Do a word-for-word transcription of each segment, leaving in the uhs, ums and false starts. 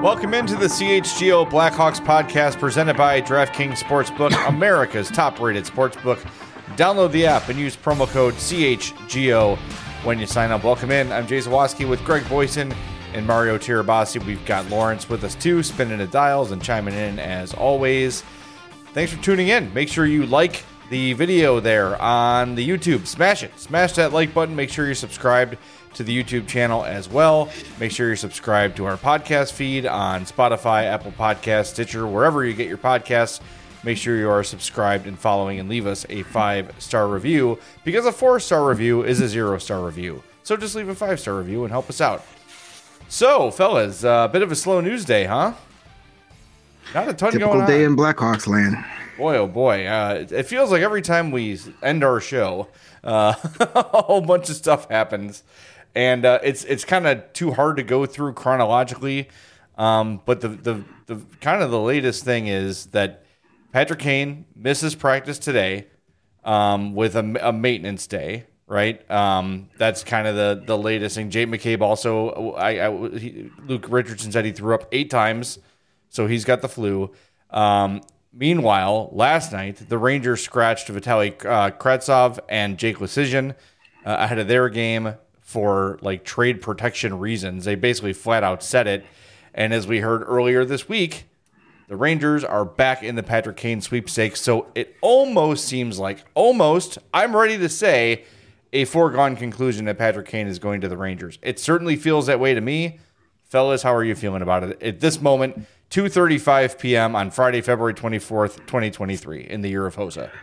Welcome into the C H G O Blackhawks podcast presented by DraftKings Sportsbook, America's top-rated sportsbook. Download the app and use promo code C H G O when you sign up. Welcome in. I'm Jay Zawaski with Greg Boyson and Mario Tirabassi. We've got Lawrence with us too, spinning the dials and chiming in as always. Thanks for tuning in. Make sure you like the video there on the YouTube. Smash it. Smash that like button. Make sure you're subscribed to the YouTube channel as well. Make sure you're subscribed to our podcast feed on Spotify, Apple Podcasts, Stitcher, wherever you get your podcasts. Make sure you are subscribed and following and leave us a five-star review, because a four-star review is a zero-star review. So just leave a five-star review and help us out. So, fellas, a uh, bit of a slow news day, huh? Not a ton Typical going on. Typical day in Blackhawks land. Boy, oh boy. Uh, it feels like every time we end our show, uh, a whole bunch of stuff happens. And uh, it's it's kind of too hard to go through chronologically. Um, but the, the, the kind of the latest thing is that Patrick Kane misses practice today um, with a, a maintenance day, right? Um, that's kind of the, the latest thing. Jake McCabe also, I, I, he, Luke Richardson said he threw up eight times, so he's got the flu. Um, meanwhile, last night, the Rangers scratched Vitaly uh, Kravtsov and Jake Leschyshyn uh, ahead of their game for like trade protection reasons. They basically flat out said it. And as we heard earlier this week, the Rangers are back in the Patrick Kane sweepstakes. So it almost seems like, almost, I'm ready to say, a foregone conclusion that Patrick Kane is going to the Rangers. It certainly feels that way to me. Fellas, how are you feeling about it at this moment, two thirty-five p.m. on Friday, February twenty-fourth, twenty twenty-three, in the year of Hosa?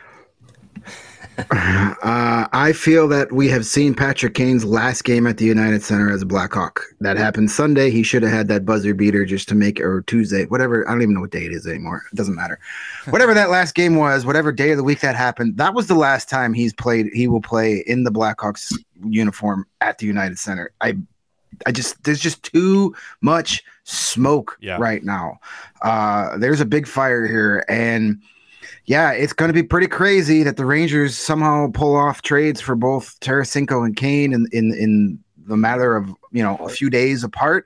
Uh, I feel that we have seen Patrick Kane's last game at the United Center as a Blackhawk. That happened Sunday. He should have had that buzzer beater just to make it, or Tuesday, whatever. I don't even know what day it is anymore. It doesn't matter. Whatever that last game was, whatever day of the week that happened, that was the last time he's played. He will play in the Blackhawks uniform at the United Center. I, I just there's just too much smoke yeah. right now. Uh, there's a big fire here, and yeah, it's going to be pretty crazy that the Rangers somehow pull off trades for both Tarasenko and Kane in, in, in the matter of, you know, a few days apart.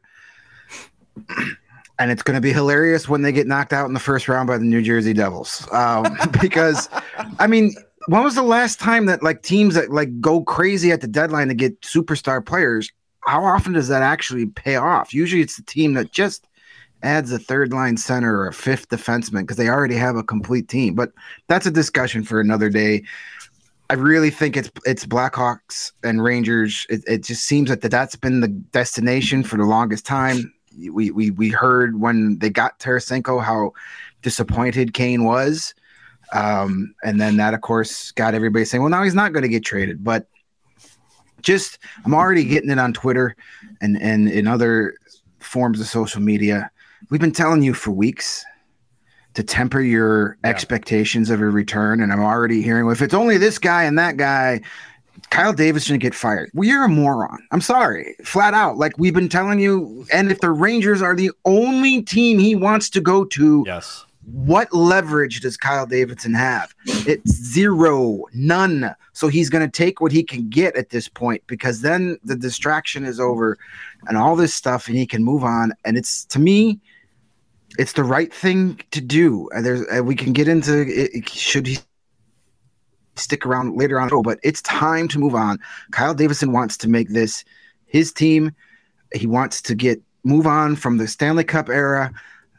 And it's going to be hilarious when they get knocked out in the first round by the New Jersey Devils. Um, because, I mean, when was the last time that like teams that like go crazy at the deadline to get superstar players, how often does that actually pay off? Usually it's the team that just adds a third line center or a fifth defenseman because they already have a complete team. But that's a discussion for another day. I really think it's it's Blackhawks and Rangers. It, it just seems that that's been the destination for the longest time. We we we heard when they got Tarasenko how disappointed Kane was. Um, and then that, of course, got everybody saying, well, now he's not going to get traded. But just I'm already getting it on Twitter and, and in other forms of social media. We've been telling you for weeks to temper your yeah. expectations of a return, and I'm already hearing, well, if it's only this guy and that guy, Kyle Davis shouldn't get fired. Well, you're a moron. I'm sorry, flat out. Like we've been telling you, and if the Rangers are the only team he wants to go to, yes. what leverage does Kyle Davidson have? It's zero, none. So he's going to take what he can get at this point, because then the distraction is over and all this stuff, and he can move on. And it's, to me, it's the right thing to do. And there's, uh, we can get into it. Should he stick around later on? But it's time to move on. Kyle Davidson wants to make this his team. He wants to get move on from the Stanley Cup era.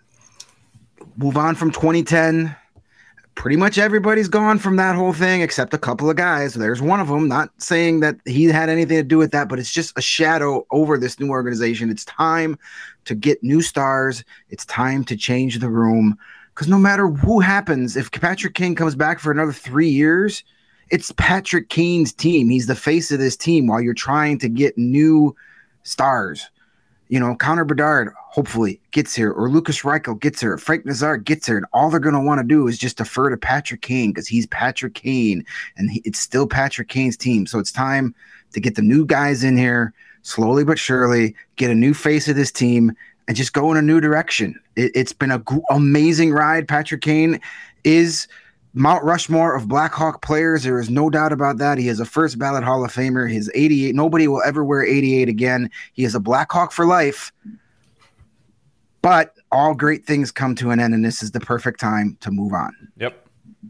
Move on from twenty ten. Pretty much everybody's gone from that whole thing except a couple of guys. There's one of them, not saying that he had anything to do with that, but it's just a shadow over this new organization. It's time to get new stars. It's time to change the room, because no matter who happens, if Patrick Kane comes back for another three years, it's Patrick Kane's team. He's the face of this team while you're trying to get new stars. You know, Connor Bedard hopefully gets here, or Lucas Reichel gets here, Frank Nazar gets here, and all they're going to want to do is just defer to Patrick Kane because he's Patrick Kane, and he, it's still Patrick Kane's team. So it's time to get the new guys in here, slowly but surely, get a new face of this team, and just go in a new direction. It, it's been an g- amazing ride. Patrick Kane is Mount Rushmore of Blackhawk players. There is no doubt about that. He is a first ballot Hall of Famer. His eighty-eight, nobody will ever wear eighty-eight again. He is a Blackhawk for life. But all great things come to an end, and this is the perfect time to move on. Yep.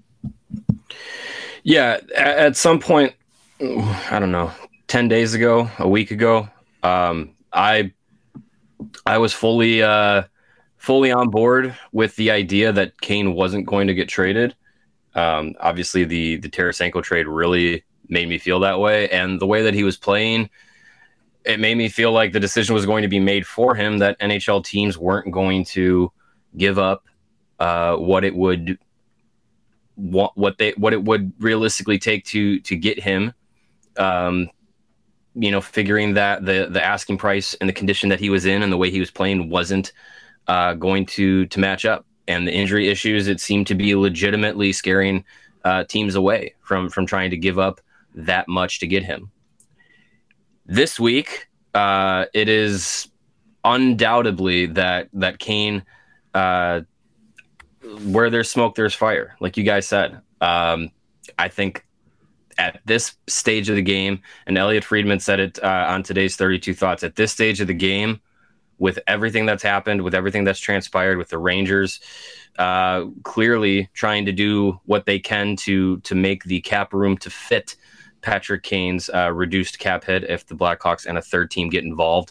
Yeah, at some point, I don't know, ten days ago, a week ago, um, I I was fully uh, fully on board with the idea that Kane wasn't going to get traded. Um, obviously, the the Tarasenko trade really made me feel that way, and the way that he was playing, it made me feel like the decision was going to be made for him, that N H L teams weren't going to give up uh, what it would what, what they what it would realistically take to to get him. Um, you know, figuring that the the asking price and the condition that he was in and the way he was playing wasn't uh, going to to match up, and the injury issues, it seemed to be legitimately scaring uh, teams away from from trying to give up that much to get him. This week, uh, it is undoubtedly that that Kane, uh, where there's smoke, there's fire, like you guys said. Um, I think at this stage of the game, and Elliot Friedman said it uh, on today's thirty-two Thoughts, at this stage of the game, with everything that's happened, with everything that's transpired, with the Rangers uh, clearly trying to do what they can to to make the cap room to fit Patrick Kane's uh, reduced cap hit if the Blackhawks and a third team get involved.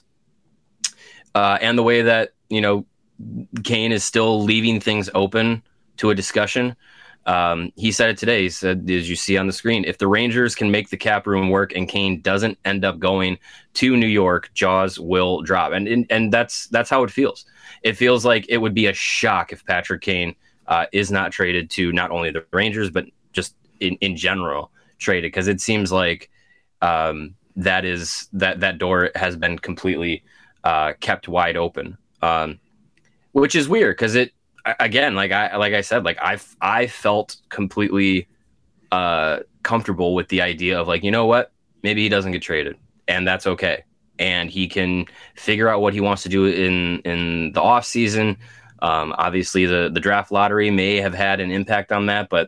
Uh, and the way that, you know, Kane is still leaving things open to a discussion. Um, he said it today. He said, as you see on the screen, if the Rangers can make the cap room work and Kane doesn't end up going to New York, jaws will drop. And and, and that's that's how it feels. It feels like it would be a shock if Patrick Kane uh, is not traded to not only the Rangers, but just in, in general traded, because it seems like um, that is that that door has been completely uh, kept wide open, um, which is weird because it again, like I like I said, like I I felt completely uh, comfortable with the idea of, like, you know what, maybe he doesn't get traded, and that's okay, and he can figure out what he wants to do in in the off season. Um, obviously, the the draft lottery may have had an impact on that, but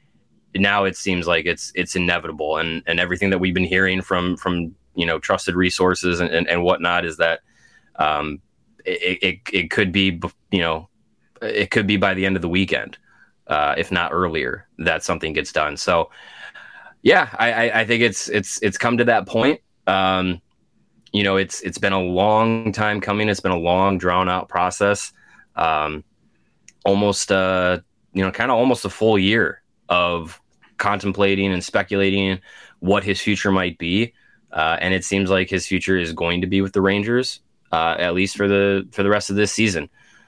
now it seems like it's it's inevitable, and and everything that we've been hearing from from you know trusted resources and and, and whatnot is that um it, it it could be you know it could be by the end of the weekend, uh, if not earlier, that something gets done. So yeah, I, I I think it's it's it's come to that point. Um, you know, it's it's been a long time coming. It's been a long drawn out process. Um, almost uh you know kind of almost a full year of contemplating and speculating what his future might be, uh, and it seems like his future is going to be with the Rangers, uh, at least for the for the rest of this season.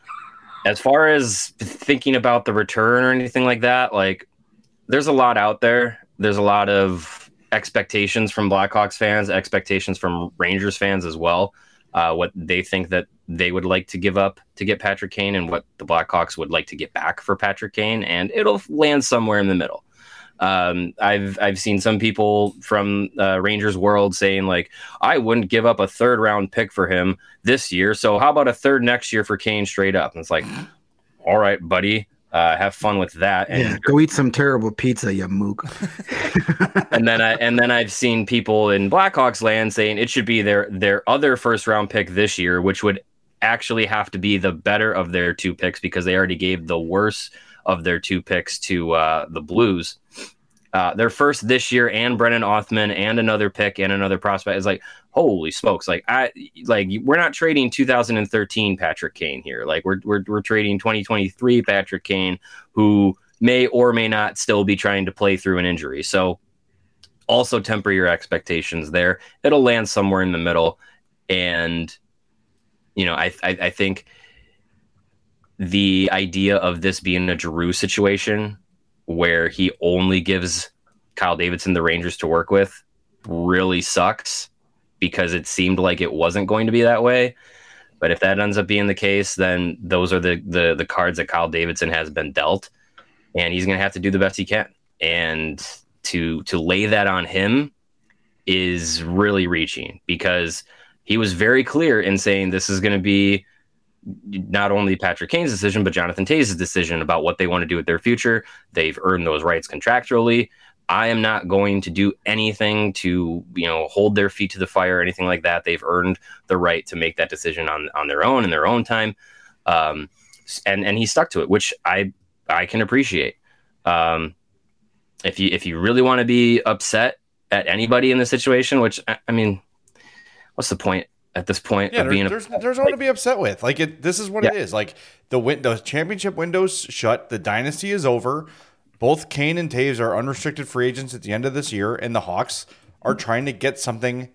As far as thinking about the return or anything like that, like, there's a lot out there. There's a lot of expectations from Blackhawks fans, expectations from Rangers fans as well, uh, what they think that they would like to give up to get Patrick Kane and what the Blackhawks would like to get back for Patrick Kane, and it'll land somewhere in the middle. Um, I've I've seen some people from uh, Rangers world saying, like, I wouldn't give up a third round pick for him this year, so how about a third next year for Kane straight up? And it's like, all right, buddy, uh, have fun with that. And yeah, go eat some terrible pizza, you mook. and then I and then I've seen people in Blackhawks land saying it should be their their other first round pick this year, which would actually have to be the better of their two picks because they already gave the worst of their two picks to uh, the Blues. Uh, their first this year and Brennan Othman and another pick and another prospect is like, holy smokes. Like I, like we're not trading two thousand thirteen Patrick Kane here. Like we're, we're, we're trading twenty twenty-three Patrick Kane, who may or may not still be trying to play through an injury. So also temper your expectations there. It'll land somewhere in the middle. And, you know, I, I, I think the idea of this being a Giroux situation where he only gives Kyle Davidson the Rangers to work with really sucks, because it seemed like it wasn't going to be that way. But if that ends up being the case, then those are the the, the cards that Kyle Davidson has been dealt, and he's going to have to do the best he can. And to to lay that on him is really reaching, because he was very clear in saying this is going to be not only Patrick Kane's decision, but Jonathan Toews' decision about what they want to do with their future. They've earned those rights contractually. I am not going to do anything to, you know, hold their feet to the fire or anything like that. They've earned the right to make that decision on, on their own in their own time. Um, and and he stuck to it, which I I can appreciate. Um, if you if you really want to be upset at anybody in the situation, which I, I mean, what's the point at this point yeah, of there, being? there's a, there's no one to be upset with. Like it, this is what Yeah. it is. Like the win, the championship window's shut. The dynasty is over. Both Kane and Taves are unrestricted free agents at the end of this year, and the Hawks are trying to get something.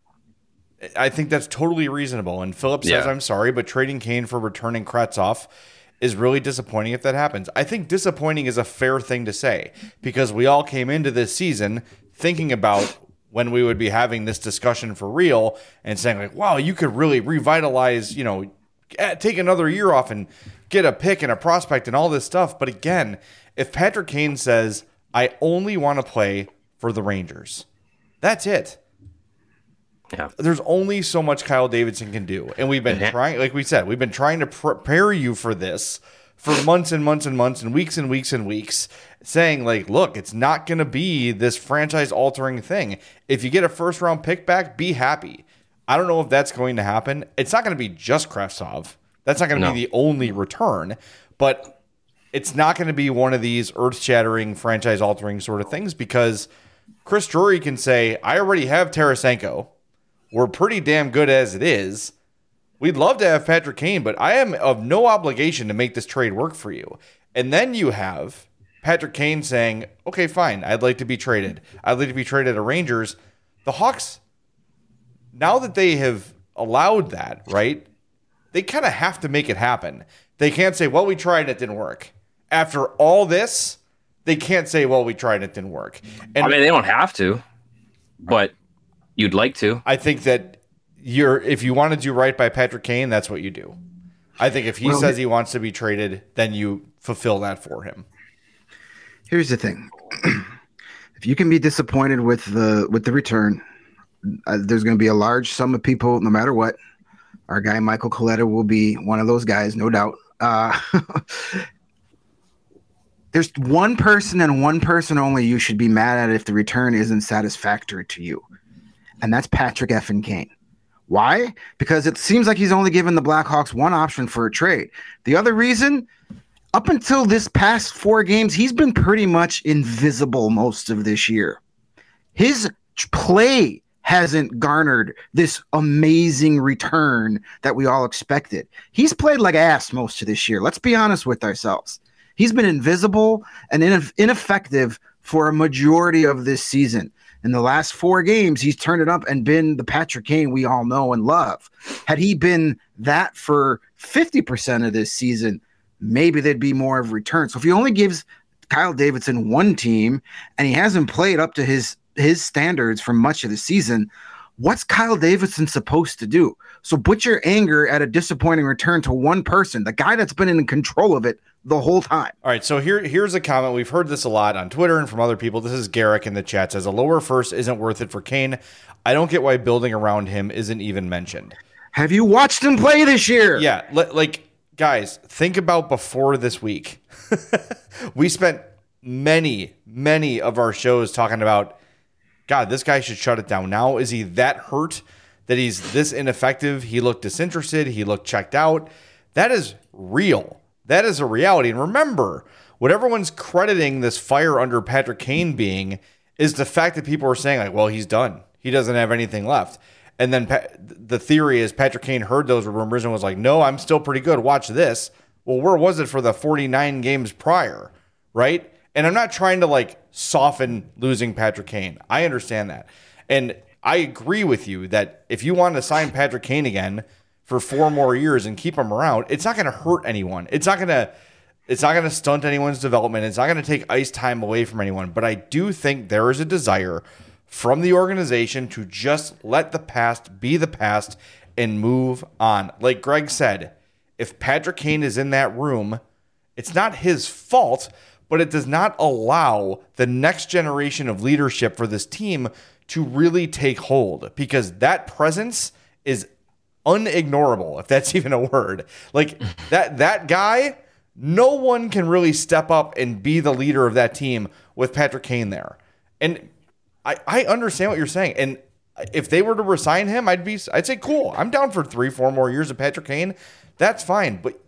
I think that's totally reasonable. And Philip says, Yeah. I'm sorry, but trading Kane for returning Kretzoff is really disappointing if that happens. I think disappointing is a fair thing to say because we all came into this season thinking about when we would be having this discussion for real and saying like, wow, you could really revitalize, you know, take another year off and get a pick and a prospect and all this stuff. But again, if Patrick Kane says, I only want to play for the Rangers, that's it. Yeah. There's only so much Kyle Davidson can do. And we've been Yeah. trying, like we said, we've been trying to prepare you for this for months and months and months and weeks and weeks and weeks, saying like, look, it's not going to be this franchise altering thing. If you get a first round pick back, be happy. I don't know if that's going to happen. It's not going to be just Kravtsov. That's not going to No. be the only return, but it's not going to be one of these earth shattering franchise altering sort of things because Chris Drury can say, I already have Tarasenko. We're pretty damn good as it is. We'd love to have Patrick Kane, but I am of no obligation to make this trade work for you. And then you have Patrick Kane saying, okay, fine, I'd like to be traded. I'd like to be traded to Rangers. The Hawks, now that they have allowed that, right, they kind of have to make it happen. They can't say, well, we tried and it didn't work. After all this, they can't say, well, we tried and it didn't work. And I mean, they don't have to, but you'd like to. I think that you're if you want to do right by Patrick Kane, that's what you do. I think if he Well, says he wants to be traded, then you fulfill that for him. Here's the thing: if you can be disappointed with the with the return, uh, there's going to be a large sum of people, no matter what. Our guy Michael Coletta will be one of those guys, no doubt. Uh, there's one person and one person only you should be mad at if the return isn't satisfactory to you, and that's Patrick effing Kane. Why? Because it seems like he's only given the Blackhawks one option for a trade. The other reason, up until this past four games, he's been pretty much invisible most of this year. His play hasn't garnered this amazing return that we all expected. He's played like ass most of this year. Let's be honest with ourselves. He's been invisible and ineff- ineffective for a majority of this season. In the last four games, he's turned it up and been the Patrick Kane we all know and love. Had he been that for fifty percent of this season, maybe there'd be more of a return. So if he only gives Kyle Davidson one team and he hasn't played up to his his standards for much of the season, what's Kyle Davidson supposed to do? So put your anger at a disappointing return to one person, the guy that's been in control of it the whole time. All right, so here here's a comment. We've heard this a lot on Twitter and from other people. This is Garrick in the chat. Says a lower first isn't worth it for Kane. I don't get why building around him isn't even mentioned. Have you watched him play this year? Yeah, li- like guys, think about before this week. We spent many, many of our shows talking about, God, this guy should shut it down. Now, is he that hurt that he's this ineffective? He looked disinterested. He looked checked out. That is real. That is a reality. And remember, what everyone's crediting this fire under Patrick Kane being is the fact that people are saying, like, well, he's done. He doesn't have anything left. And then pa- the theory is Patrick Kane heard those rumors and was like, no, I'm still pretty good. Watch this. Well, where was it for the forty-nine games prior, right? And I'm not trying to, like, soften losing Patrick Kane. I understand that. And I agree with you that if you want to sign Patrick Kane again for four more years and keep him around, it's not going to hurt anyone. It's not going to it's not going to stunt anyone's development. It's not going to take ice time away from anyone. But I do think there is a desire from the organization to just let the past be the past and move on. Like Greg said, if Patrick Kane is in that room, it's not his fault, but it does not allow the next generation of leadership for this team to really take hold, because that presence is unignorable, if that's even a word. Like that that guy, no one can really step up and be the leader of that team with Patrick Kane there. And I, I understand what you're saying. And if they were to resign him, I'd be I'd say cool. I'm down for three, four more years of Patrick Kane. That's fine. But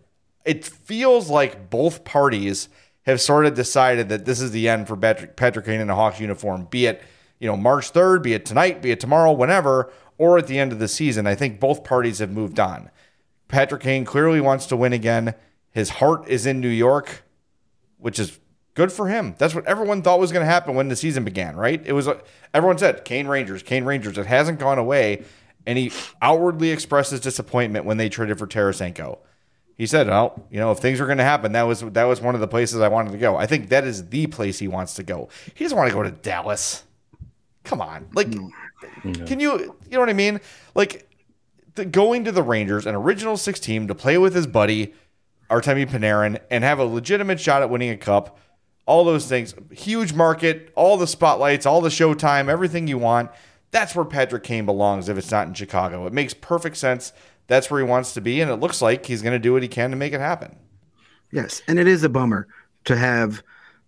it feels like both parties have sort of decided that this is the end for Patrick, Patrick Kane in a Hawks uniform, be it, you know, March third, be it tonight, be it tomorrow, whenever, or at the end of the season. I think both parties have moved on. Patrick Kane clearly wants to win again. His heart is in New York, which is good for him. That's what everyone thought was going to happen when the season began, right? It was, everyone said, Kane Rangers, Kane Rangers. It hasn't gone away. And he outwardly expressed his disappointment when they traded for Tarasenko. He said, "Oh, you know, if things were going to happen, that was that was one of the places I wanted to go." I think that is the place he wants to go. He doesn't want to go to Dallas. Come on, like, no. Can you, you know what I mean? Like, the, going to the Rangers, an original six team, to play with his buddy Artemi Panarin and have a legitimate shot at winning a cup. All those things, huge market, all the spotlights, all the showtime, everything you want. That's where Patrick Kane belongs. If it's not in Chicago, it makes perfect sense. That's where he wants to be, and it looks like he's going to do what he can to make it happen. Yes, and it is a bummer to have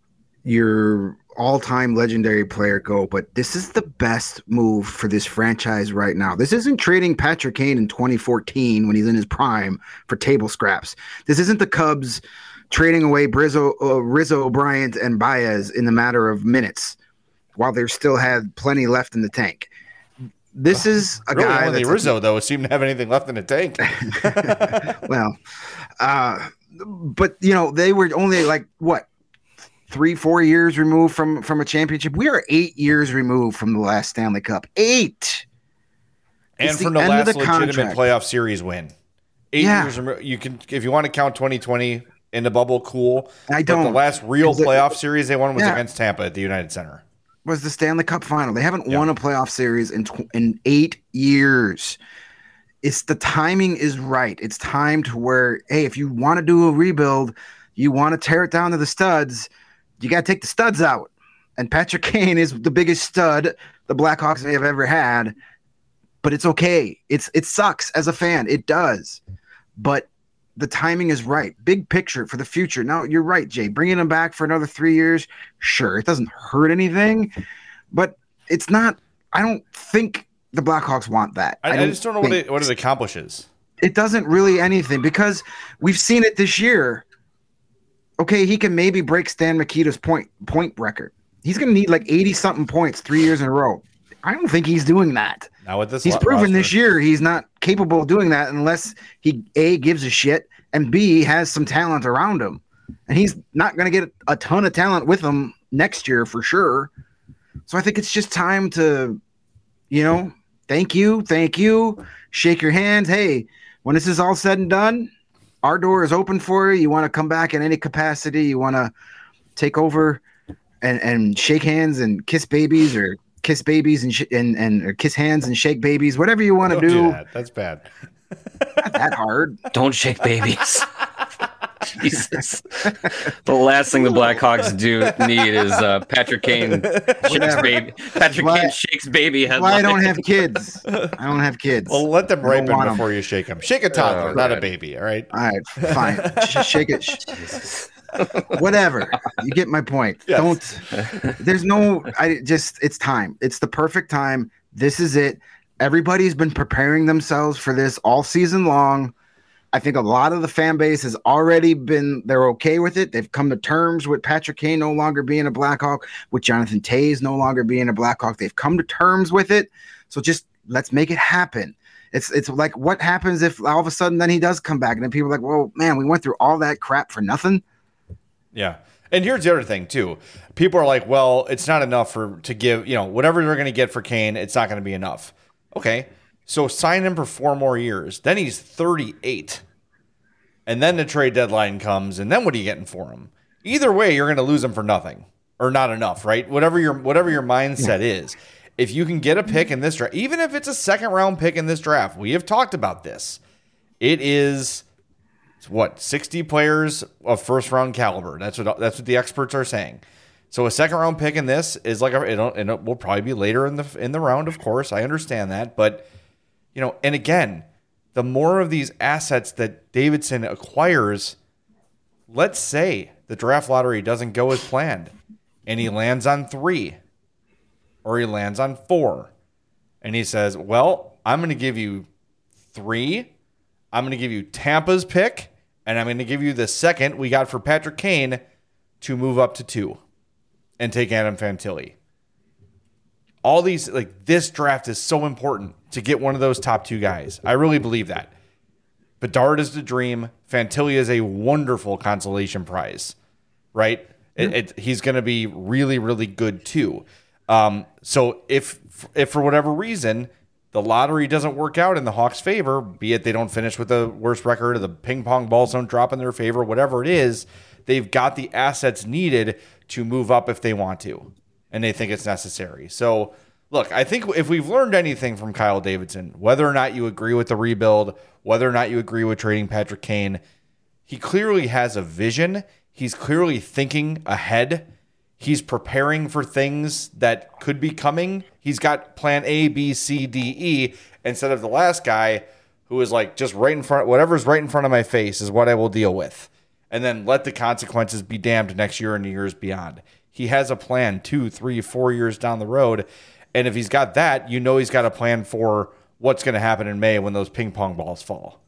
your all-time legendary player go, but this is the best move for this franchise right now. This isn't trading Patrick Kane in twenty fourteen when he's in his prime for table scraps. This isn't the Cubs trading away Brizzo, uh, Rizzo, Bryant, and Baez in the matter of minutes while they still had plenty left in the tank. This is a really guy only that's Rizzo, though, seemed to have anything left in the tank. well, uh, but, you know, they were only like, what, three, four years removed from, from a championship. We are eight years removed from the last Stanley Cup. Eight. And it's from the the last the legitimate contract. playoff series win. Eight Yeah. years removed. You can, if you want to count twenty twenty in the bubble, cool. I But don't. the last real Is it- playoff series they won was Yeah. against Tampa at the United Center. Was the Stanley Cup final. They haven't Yeah. won a playoff series in tw- in eight years. It's the timing is right. It's time to where, hey, if you want to do a rebuild, you want to tear it down to the studs, you got to take the studs out. And Patrick Kane is the biggest stud the Blackhawks may have ever had. But it's okay. It's it sucks as a fan. It does. But the timing is right. Big picture for the future. Now, you're right, Jay. Bringing him back for another three years, sure, it doesn't hurt anything, but it's not – I don't think the Blackhawks want that. I, I, don't just don't know what think- it, what it accomplishes. It doesn't really anything because we've seen it this year. Okay, he can maybe break Stan Mikita's point point record. He's going to need like eighty-something points three years in a row. I don't think he's doing that. Now with this He's lot- proven roster. this year he's not capable of doing that unless he A, gives a shit, and B, has some talent around him. And he's not going to get a ton of talent with him next year for sure. So I think it's just time to, you know, thank you, thank you, shake your hands. Hey, when this is all said and done, our door is open for you. You want to come back in any capacity, you want to take over and, and shake hands and kiss babies or kiss babies and sh- and and or kiss hands and shake babies, whatever you want to Don't do. do that. That's bad. Not that hard. Don't shake babies. Jesus. The last thing the Blackhawks do need is uh, Patrick Kane shakes Whatever. baby. Patrick Why- Kane shakes baby That's why I headline. don't have kids. I don't have kids. Well, let them I don't ripen want 'em. before you shake them. Shake a toddler, Oh, not a right. baby, all right? All right, fine. Sh- shake it. Sh- Whatever. You get my point. Yes. Don't. There's no. I just. It's time. It's the perfect time. This is it. Everybody's been preparing themselves for this all season long. I think a lot of the fan base has already been. They're okay with it. They've come to terms with Patrick Kane no longer being a Blackhawk, with Jonathan Toews no longer being a Blackhawk. They've come to terms with it. So just let's make it happen. It's it's like what happens if all of a sudden then he does come back and then people are like, well, man, we went through all that crap for nothing. Yeah. And here's the other thing, too. People are like, well, it's not enough for to give, you know, whatever they're going to get for Kane, it's not going to be enough. Okay. So sign him for four more years. Then he's thirty-eight. And then the trade deadline comes, and then what are you getting for him? Either way, you're going to lose him for nothing or not enough, right? Whatever your whatever your mindset is. If you can get a pick in this draft, even if it's a second round pick in this draft, we have talked about this. It is what, sixty players of first round caliber. That's what that's what the experts are saying. So a second round pick in this is like a, it'll, and it will probably be later in the in the round, of course. I understand that, but you know, and again, the more of these assets that Davidson acquires, let's say the draft lottery doesn't go as planned, and he lands on three, or he lands on four, and he says, "Well, I'm going to give you three. I'm going to give you Tampa's pick, And I'm going to give you the second we got for Patrick Kane to move up to two and take Adam Fantilli. All these, like, this draft is so important to get one of those top two guys. I really believe that. Bedard is the dream. Fantilli is a wonderful consolation prize, right? It, it, he's going to be really, really good too. Um, so if, if for whatever reason the lottery doesn't work out in the Hawks' favor, be it they don't finish with the worst record, or the ping pong balls don't drop in their favor, whatever it is, they've got the assets needed to move up if they want to, and they think it's necessary. So, look, I think if we've learned anything from Kyle Davidson, whether or not you agree with the rebuild, whether or not you agree with trading Patrick Kane, he clearly has a vision. He's clearly thinking ahead. He's preparing for things that could be coming. He's got plan A, B, C, D, E, instead of the last guy who was like, just right in front, whatever's right in front of my face is what I will deal with. And then let the consequences be damned next year and the years beyond. He has a plan two, three, four years down the road. And if he's got that, you know he's got a plan for what's going to happen in May when those ping pong balls fall.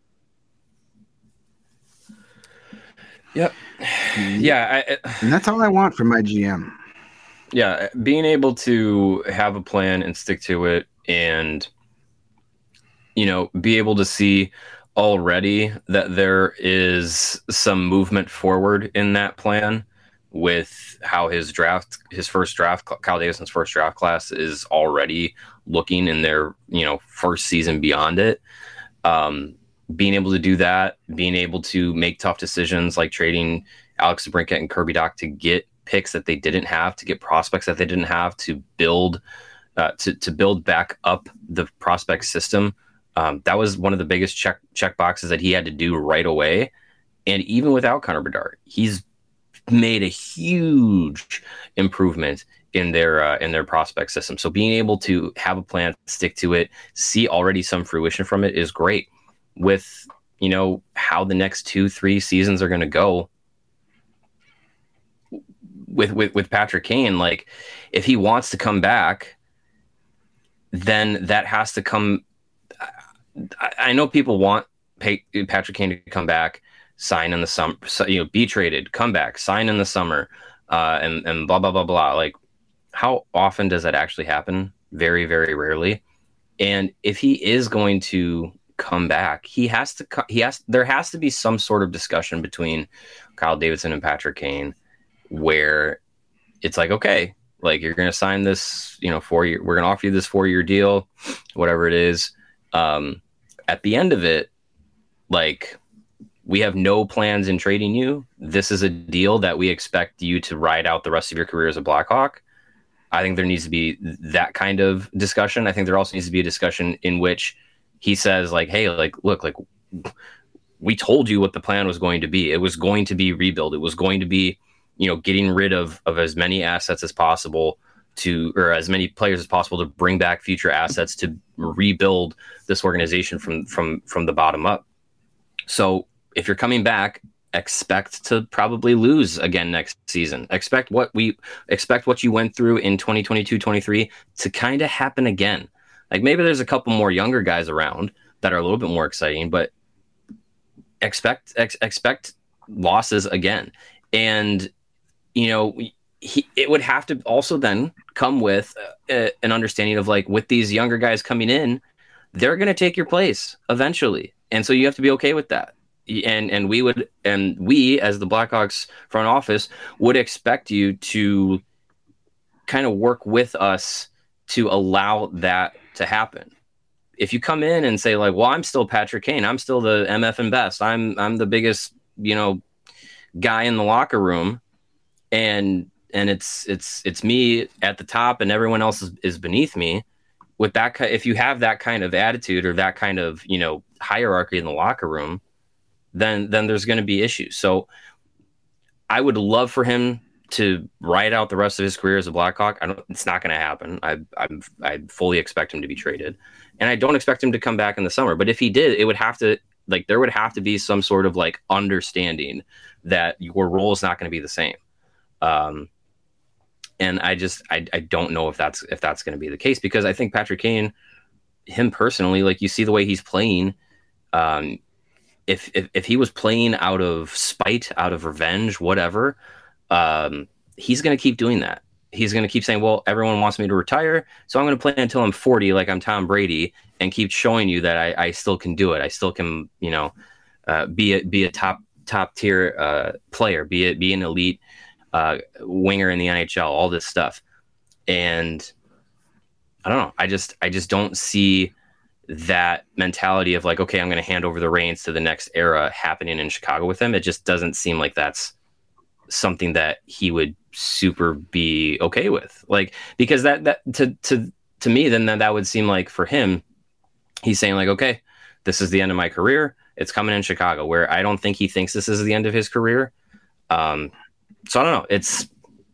Yep. Yeah. I, and that's all I want from my G M. Yeah. Being able to have a plan and stick to it, and, you know, be able to see already that there is some movement forward in that plan with how his draft, his first draft, Kyle Davidson's first draft class is already looking in their, you know, first season beyond it. Um, being able to do that, being able to make tough decisions like trading Alex DeBrincat and Kirby Dach to get picks that they didn't have, to get prospects that they didn't have, to build, uh, to to build back up the prospect system. Um, that was one of the biggest check check boxes that he had to do right away. And even without Connor Bedard, he's made a huge improvement in their uh, in their prospect system. So being able to have a plan, stick to it, see already some fruition from it is great. With, you know, how the next two, three seasons are going to go with, with, with Patrick Kane, like, if he wants to come back, then that has to come. I, I know people want pay, Patrick Kane to come back, sign in the summer, you know, be traded, come back, sign in the summer, uh, and, and blah, blah, blah, blah. Like, how often does that actually happen? Very, very rarely. And if he is going to come back, he has to he has there has to be some sort of discussion between Kyle Davidson and Patrick Kane where it's like, okay, like, you're going to sign this, you know, four year, we're going to offer you this four year deal, whatever it is. Um, at the end of it, like, we have no plans in trading you. This is a deal that we expect you to ride out the rest of your career as a Blackhawk. I think there needs to be that kind of discussion. I think there also needs to be a discussion in which he says, like, hey, like, look, like, we told you what the plan was going to be. It was going to be rebuild. It was going to be, you know, getting rid of, of as many assets as possible to, or as many players as possible to bring back future assets to rebuild this organization from, from, from the bottom up. So if you're coming back, expect to probably lose again next season. Expect what we expect what you went through in twenty twenty-two twenty-three to kind of happen again. Like, maybe there's a couple more younger guys around that are a little bit more exciting, but expect ex, expect losses again. And, you know, he, it would have to also then come with a, an understanding of, like, with these younger guys coming in, they're going to take your place eventually. And so you have to be okay with that. And and we would and we as the Blackhawks front office would expect you to kind of work with us to allow that to happen. If you come in and say, like, well, I'm still Patrick Kane, I'm still the M F and best, I'm I'm the biggest, you know, guy in the locker room, and and it's it's it's me at the top and everyone else is, is beneath me. With that, if you have that kind of attitude or that kind of, you know, hierarchy in the locker room, then then there's going to be issues. So I would love for him to ride out the rest of his career as a Blackhawk. I don't. It's not going to happen. I I'm, I fully expect him to be traded, and I don't expect him to come back in the summer. But if he did, it would have to, like, there would have to be some sort of, like, understanding that your role is not going to be the same. Um, and I just I I don't know if that's if that's going to be the case, because I think Patrick Kane, him personally, like, you see the way he's playing. Um, if, if if he was playing out of spite, out of revenge, whatever, um, he's going to keep doing that. He's going to keep saying, well, everyone wants me to retire, so I'm going to play until I'm forty, like I'm Tom Brady, and keep showing you that I, I still can do it. I still can, you know, uh, be a, be a top top tier uh, player, be a, be an elite uh, winger in the N H L, all this stuff. And I don't know. I just I just don't see that mentality of like, okay, I'm going to hand over the reins to the next era happening in Chicago with him. It just doesn't seem like that's something that he would super be okay with. Like, because that, that to, to, to me, then that, that would seem like for him, he's saying like, okay, this is the end of my career. It's coming in Chicago, where I don't think he thinks this is the end of his career. Um, so I don't know. It's,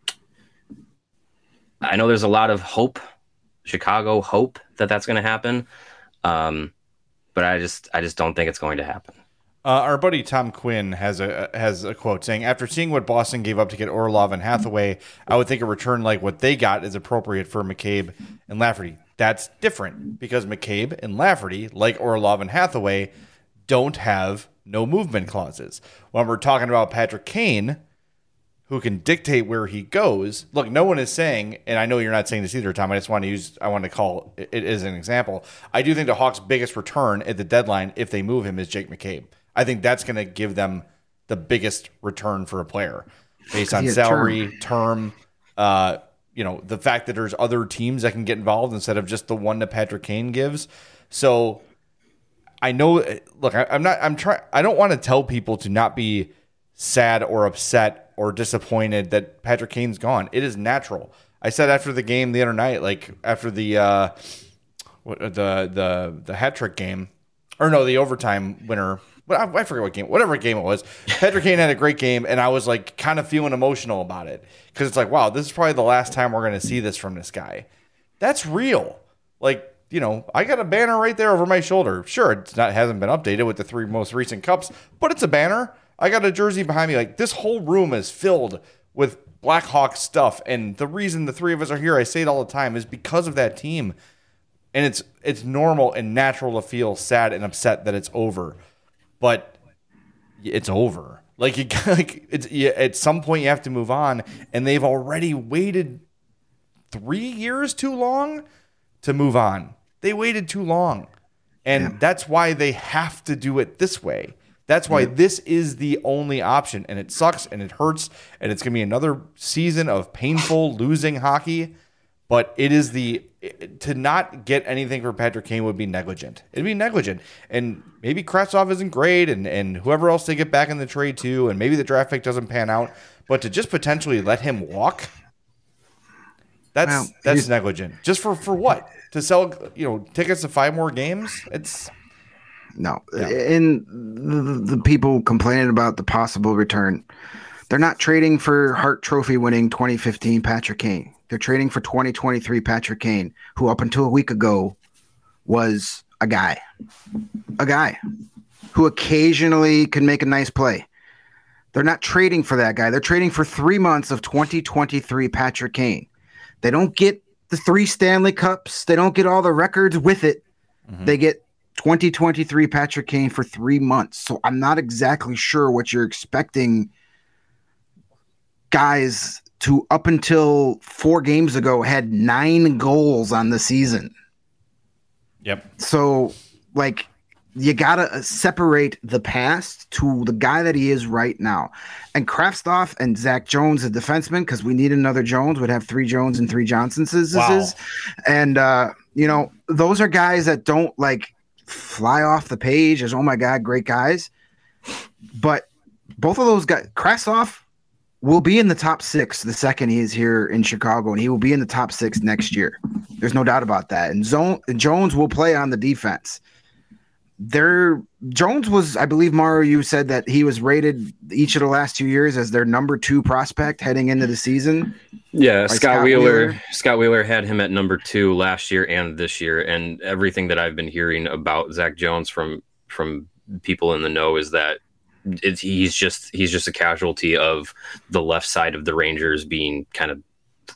I know there's a lot of hope, Chicago hope that that's going to happen. Um, but I just, I just don't think it's going to happen. Uh, our buddy Tom Quinn has a has a quote saying, "After seeing what Boston gave up to get Orlov and Hathaway, I would think a return like what they got is appropriate for McCabe and Lafferty." That's different because McCabe and Lafferty, like Orlov and Hathaway, don't have no movement clauses. When we're talking about Patrick Kane, who can dictate where he goes. Look, no one is saying, and I know you're not saying this either, Tom. I just want to use, I want to call it as an example. I do think the Hawks' biggest return at the deadline, if they move him, is Jake McCabe. I think that's going to give them the biggest return for a player based on salary, term, term uh, you know, the fact that there's other teams that can get involved instead of just the one that Patrick Kane gives. So I know, look, I, I'm not, I'm trying, I don't want to tell people to not be sad or upset or disappointed that Patrick Kane's gone. It is natural. I said after the game the other night, like after the uh, what, the the the hat trick game, or no, the overtime winner. But I, I forget what game, whatever game it was. Patrick Kane had a great game, and I was like kind of feeling emotional about it because it's like, wow, this is probably the last time we're going to see this from this guy. That's real. Like, you know, I got a banner right there over my shoulder. Sure, it's not hasn't been updated with the three most recent cups, but it's a banner. I got a jersey behind me. Like, this whole room is filled with Blackhawks stuff. And the reason the three of us are here, I say it all the time, is because of that team. And it's it's normal and natural to feel sad and upset that it's over. But it's over. Like, you, like it's you, at some point you have to move on. And they've already waited three years too long to move on. They waited too long. And yeah. That's why they have to do it this way. That's why this is the only option, and it sucks, and it hurts, and it's going to be another season of painful losing hockey, but it is the – to not get anything for Patrick Kane would be negligent. It'd be negligent, and maybe Kravtsov isn't great, and, and whoever else they get back in the trade too, and maybe the draft pick doesn't pan out, but to just potentially let him walk, that's well, that's negligent. Just for, for what? To sell, you know, tickets to five more games? It's – No, yeah. And the, the people complaining about the possible return, they're not trading for Hart Trophy winning twenty fifteen Patrick Kane. They're trading for twenty twenty-three Patrick Kane, who up until a week ago was a guy, a guy who occasionally can make a nice play. They're not trading for that guy. They're trading for three months of twenty twenty-three Patrick Kane. They don't get the three Stanley Cups. They don't get all the records with it. Mm-hmm. They get twenty twenty-three Patrick Kane for three months. So I'm not exactly sure what you're expecting guys to, up until four games ago, had nine goals on the season. Yep. So, like, you got to separate the past to the guy that he is right now. And Kravtsov and Zach Jones, a defenseman, because we need another Jones, would have three Jones and three Johnsons. Wow. And, uh, you know, those are guys that don't, like, fly off the page as, oh my God, great guys. But both of those guys, Kravtsov will be in the top six the second he is here in Chicago, and he will be in the top six next year. There's no doubt about that. And Zone, Jones will play on the defense. There, Jones was, I believe, Mario, you said that he was rated each of the last two years as their number two prospect heading into the season. Yeah, Scott, Scott Wheeler, Wheeler. Scott Wheeler had him at number two last year and this year, and everything that I've been hearing about Zach Jones from from people in the know is that it's, he's just he's just a casualty of the left side of the Rangers being kind of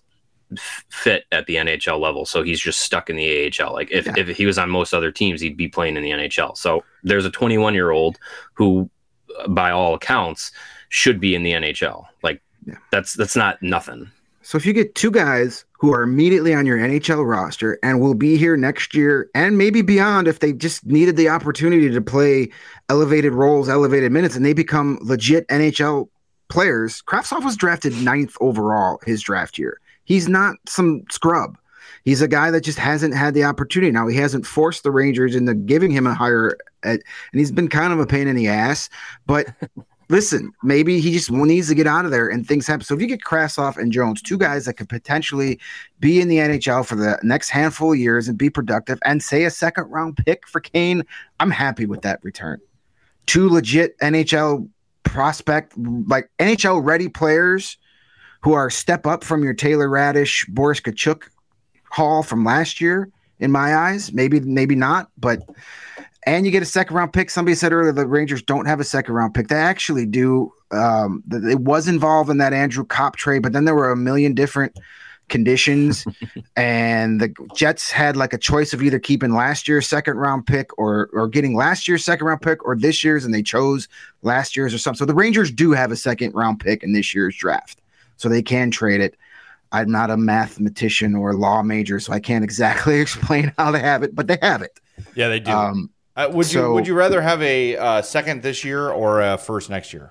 f- fit at the N H L level, so he's just stuck in the A H L. Like if, Yeah. if he was on most other teams, he'd be playing in the N H L. So there's a twenty-one year old who, by all accounts, should be in the N H L. Like Yeah. that's that's not nothing. So if you get two guys who are immediately on your N H L roster and will be here next year and maybe beyond if they just needed the opportunity to play elevated roles, elevated minutes, and they become legit N H L players. Kravtsov was drafted ninth overall his draft year. He's not some scrub. He's a guy that just hasn't had the opportunity. Now, he hasn't forced the Rangers into giving him a higher, and he's been kind of a pain in the ass, but listen, maybe he just needs to get out of there and things happen. So if you get Kravtsov and Jones, two guys that could potentially be in the N H L for the next handful of years and be productive, and say a second round pick for Kane, I'm happy with that return. Two legit N H L prospect, like N H L ready players who are step up from your Taylor Radish, Boris Kachuk haul from last year, in my eyes. Maybe, maybe not, but and you get a second round pick. Somebody said earlier the Rangers don't have a second round pick. They actually do. Um, it was involved in that Andrew Kopp trade, but then there were a million different conditions, and the Jets had like a choice of either keeping last year's second round pick or or getting last year's second round pick or this year's, and they chose last year's or something. So the Rangers do have a second round pick in this year's draft, so they can trade it. I'm not a mathematician or law major, so I can't exactly explain how they have it, but they have it. Yeah, they do. Um, Uh, would So- you would you rather have a uh, second this year or a first next year?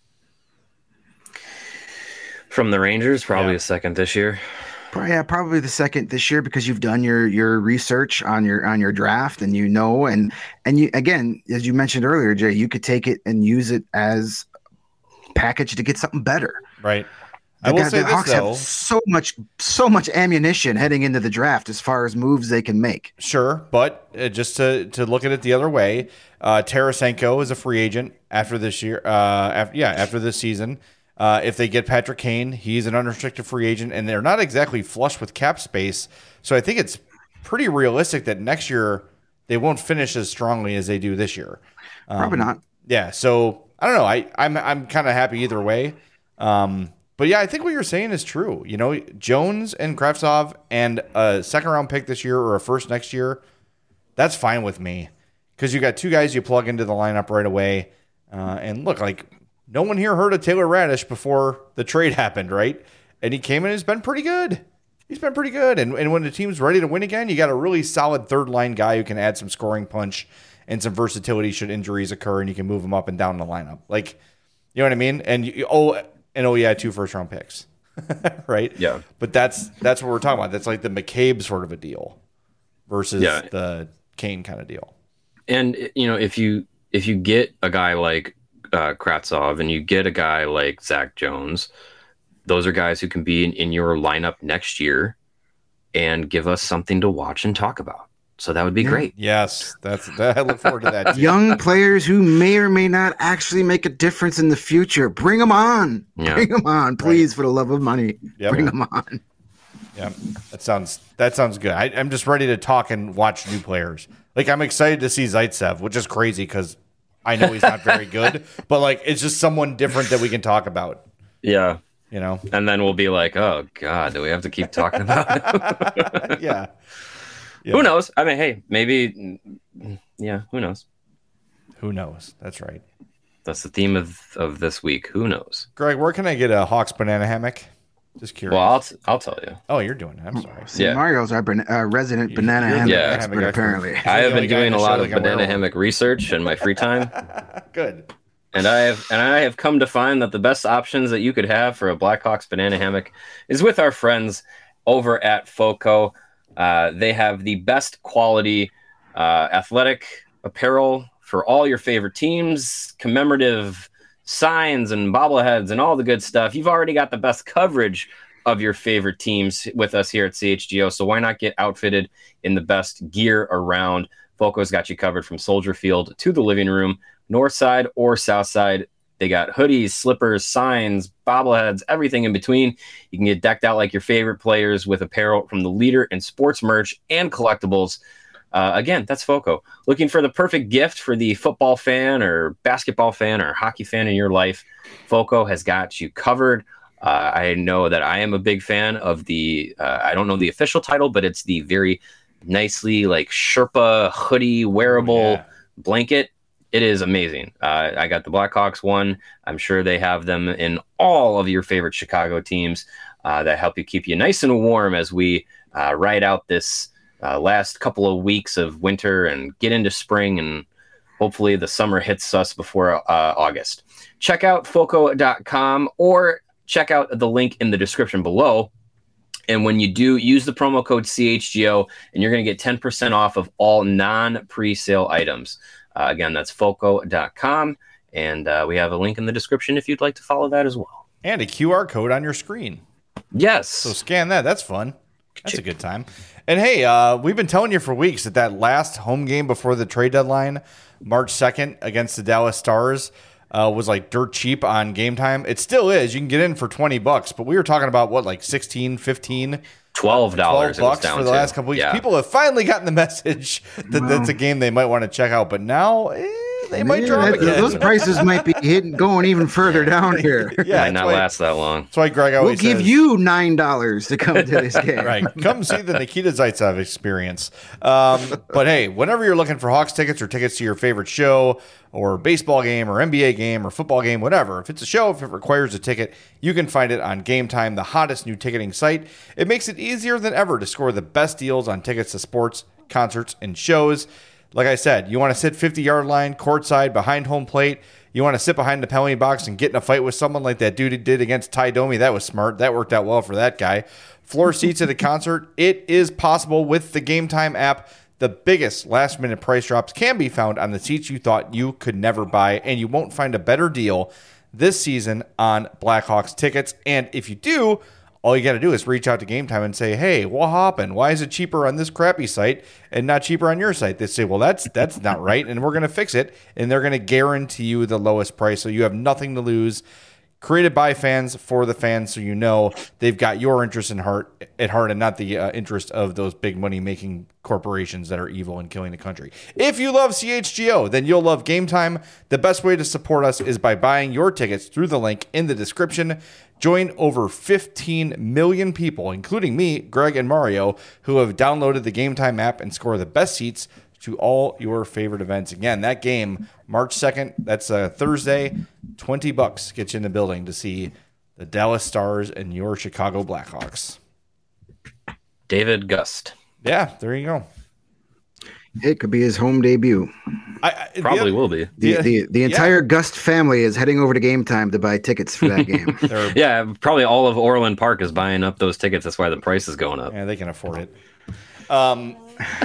From the Rangers, probably Yeah. a second this year. Pro- Yeah, probably the second this year because you've done your your research on your on your draft and you know and and you again, as you mentioned earlier, Jay, you could take it and use it as package to get something better. Right. The, I will guy- say the this Hawks though. have so much so much ammunition heading into the draft as far as moves they can make. Sure, but uh, just to, to look at it the other way, uh, Tarasenko is a free agent after this year. Uh, after, yeah, after this season, uh, if they get Patrick Kane, he's an unrestricted free agent, and they're not exactly flush with cap space. So I think it's pretty realistic that next year they won't finish as strongly as they do this year. Um, Probably not. Yeah, so I don't know. I I'm I'm kind of happy either way. Um, but yeah, I think what you're saying is true. You know, Jones and Kravtsov and a second round pick this year or a first next year, that's fine with me because you got two guys you plug into the lineup right away. Uh, and look, like no one here heard of Taylor Radish before the trade happened, right? And he came in and has been pretty good. He's been pretty good. And and when the team's ready to win again, you got a really solid third line guy who can add some scoring punch and some versatility should injuries occur, and you can move him up and down the lineup. Like, you know what I mean? And you, oh, and oh yeah, two first round picks, right? Yeah. But that's that's what we're talking about. That's like the McCabe sort of a deal versus Yeah. the Kane kind of deal. And you know, if you if you get a guy like uh, Kravtsov and you get a guy like Zach Jones, those are guys who can be in, in your lineup next year and give us something to watch and talk about. So that would be Yeah. great. Yes, that's that. I look forward to that. Too. Young players who may or may not actually make a difference in the future. Bring them on. Yeah. Bring them on, please, for the love of money. Yep. Bring them on. Yeah, that sounds that sounds good. I, I'm just ready to talk and watch new players. Like I'm excited to see Zaitsev, which is crazy because I know he's not very good, but like it's just someone different that we can talk about. Yeah. You know? And then we'll be like, oh God, do we have to keep talking about it? Yeah. Yeah. Who knows? I mean, hey, maybe, yeah, who knows? Who knows? That's right. That's the theme of, of this week. Who knows? Greg, where can I get a Hawks banana hammock? Just curious. Well, I'll, t- I'll tell you. oh, you're doing it. I'm sorry. See, Yeah. Mario's our ban- uh, resident banana You're the hammock banana expert, hammock expert. apparently. I have the only been guy doing in a the lot show of that can wear banana one. hammock research in my free time. Good. And I have and I have come to find that the best options that you could have for a Blackhawks banana hammock is with our friends over at FOCO. Uh, they have the best quality uh, athletic apparel for all your favorite teams, commemorative signs and bobbleheads and all the good stuff. You've already got the best coverage of your favorite teams with us here at C H G O, so why not get outfitted in the best gear around? FOCO's got you covered from Soldier Field to the living room, north side or south side. They got hoodies, slippers, signs, bobbleheads, everything in between. You can get decked out like your favorite players with apparel from the leader in sports merch and collectibles. Uh, again, that's FOCO. Looking for the perfect gift for the football fan or basketball fan or hockey fan in your life, FOCO has got you covered. Uh, I know that I am a big fan of the, uh, I don't know the official title, but it's the very nicely like Sherpa hoodie wearable Oh, yeah. blanket. It is amazing. Uh, I got the Blackhawks one. I'm sure they have them in all of your favorite Chicago teams uh, that help you keep you nice and warm as we uh, ride out this uh, last couple of weeks of winter and get into spring, and hopefully the summer hits us before uh, August. Check out foco dot com or check out the link in the description below. And when you do, use the promo code C H G O, and you're going to get ten percent off of all non-pre-sale items. Uh, again, that's foco dot com, and uh, we have a link in the description if you'd like to follow that as well. And a Q R code on your screen. Yes. So scan that. That's fun. That's a good time. And hey, uh, we've been telling you for weeks that that last home game before the trade deadline, March second against the Dallas Stars, uh, was like dirt cheap on Game Time. It still is. You can get in for twenty bucks, but we were talking about what, like sixteen, fifteen twelve dollars twelve bucks for the to. last couple weeks. Yeah. People have finally gotten the message that Wow. that's a game they might want to check out, but now eh, they might Yeah, drop that- again. those prices might be hitting, going even further down here. Yeah, Might that's not why, last that long. that's why Greg We'll always give says, you nine dollars to come to this game. right, come see the Nikita Zaitsev experience. Um, but hey, whenever you're looking for Hawks tickets or tickets to your favorite show or baseball game or N B A game or football game, whatever, if it's a show, if it requires a ticket, you can find it on Game Time, the hottest new ticketing site. It makes it easier than ever to score the best deals on tickets to sports, concerts, and shows. Like I said, you want to sit fifty-yard line, courtside, behind home plate. You want to sit behind the penalty box and get in a fight with someone like that dude did against Ty Domi. That was smart. That worked out well for that guy. Floor seats at a concert. It is possible with the Game Time app. The biggest last-minute price drops can be found on the seats you thought you could never buy, and you won't find a better deal this season on Blackhawks tickets. And if you do, all you got to do is reach out to Game Time and say, hey, what happened? Why is it cheaper on this crappy site and not cheaper on your site? They say, well, that's that's not right, and we're going to fix it, and they're going to guarantee you the lowest price, so you have nothing to lose. Created by fans for the fans, so you know they've got your interest in heart at heart and not the uh, interest of those big money-making corporations that are evil and killing the country. If you love C H G O, then you'll love Game Time. The best way to support us is by buying your tickets through the link in the description. Join over fifteen million people, including me, Greg, and Mario, who have downloaded the Game Time app and score the best seats to all your favorite events. Again, that game, March second, that's a Thursday, twenty bucks gets you in the building to see the Dallas Stars and your Chicago Blackhawks. David Gust. Yeah, there you go. It could be his home debut. I, I, Probably the, will be. The, Yeah. the, the entire Gust family is heading over to Game Time to buy tickets for that game. they're- Yeah, probably all of Orland Park is buying up those tickets. That's why the price is going up. Yeah, they can afford it. Um,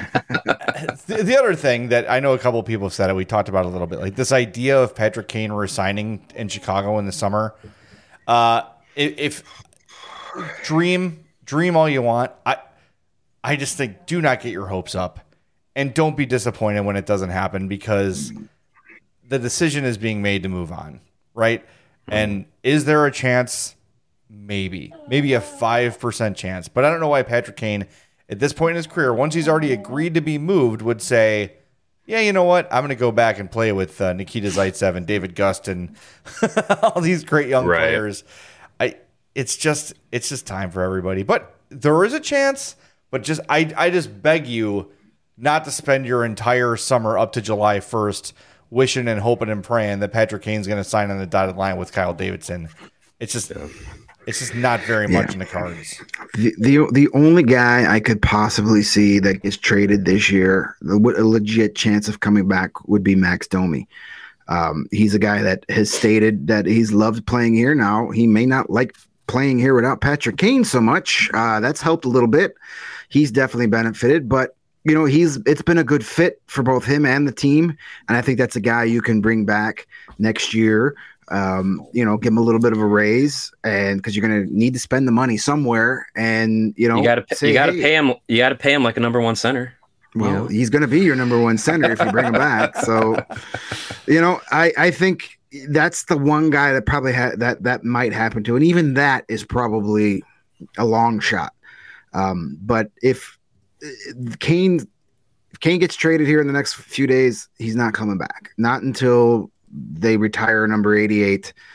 the, the other thing that I know a couple of people have said it, we talked about a little bit, like this idea of Patrick Kane resigning in Chicago in the summer. Uh, if, if dream, dream all you want, I, I just think do not get your hopes up, and don't be disappointed when it doesn't happen, because the decision is being made to move on, right? And is there a chance? Maybe, maybe a five percent chance, but I don't know why Patrick Kane, at this point in his career, once he's already agreed to be moved, would say, yeah, you know what? I'm going to go back and play with uh, Nikita Zaitsev and David Gust and all these great young Right. players. I, it's just, it's just time for everybody. But there is a chance. But just, I, I just beg you not to spend your entire summer up to July first wishing and hoping and praying that Patrick Kane's going to sign on the dotted line with Kyle Davidson. It's just, it's just not very much in the cards. The, the the only guy I could possibly see that gets traded this year, the- a legit chance of coming back, would be Max Domi. Um, he's a guy that has stated that he's loved playing here. Now, he may not like playing here without Patrick Kane so much. Uh, that's helped a little bit. He's definitely benefited, but you know, he's it's been a good fit for both him and the team, and I think that's a guy you can bring back next year. Um, you know, give him a little bit of a raise, and because you're going to need to spend the money somewhere, and you know, You gotta, say, you gotta hey, pay him. You gotta pay him like a number one center. Well, you know? he's going to be your number one center if you bring him back. So, you know, I I think that's the one guy that probably ha- that that might happen to, and even that is probably a long shot. Um, but if uh, Kane if Kane gets traded here in the next few days, he's not coming back. Not until they retire number eighty-eight.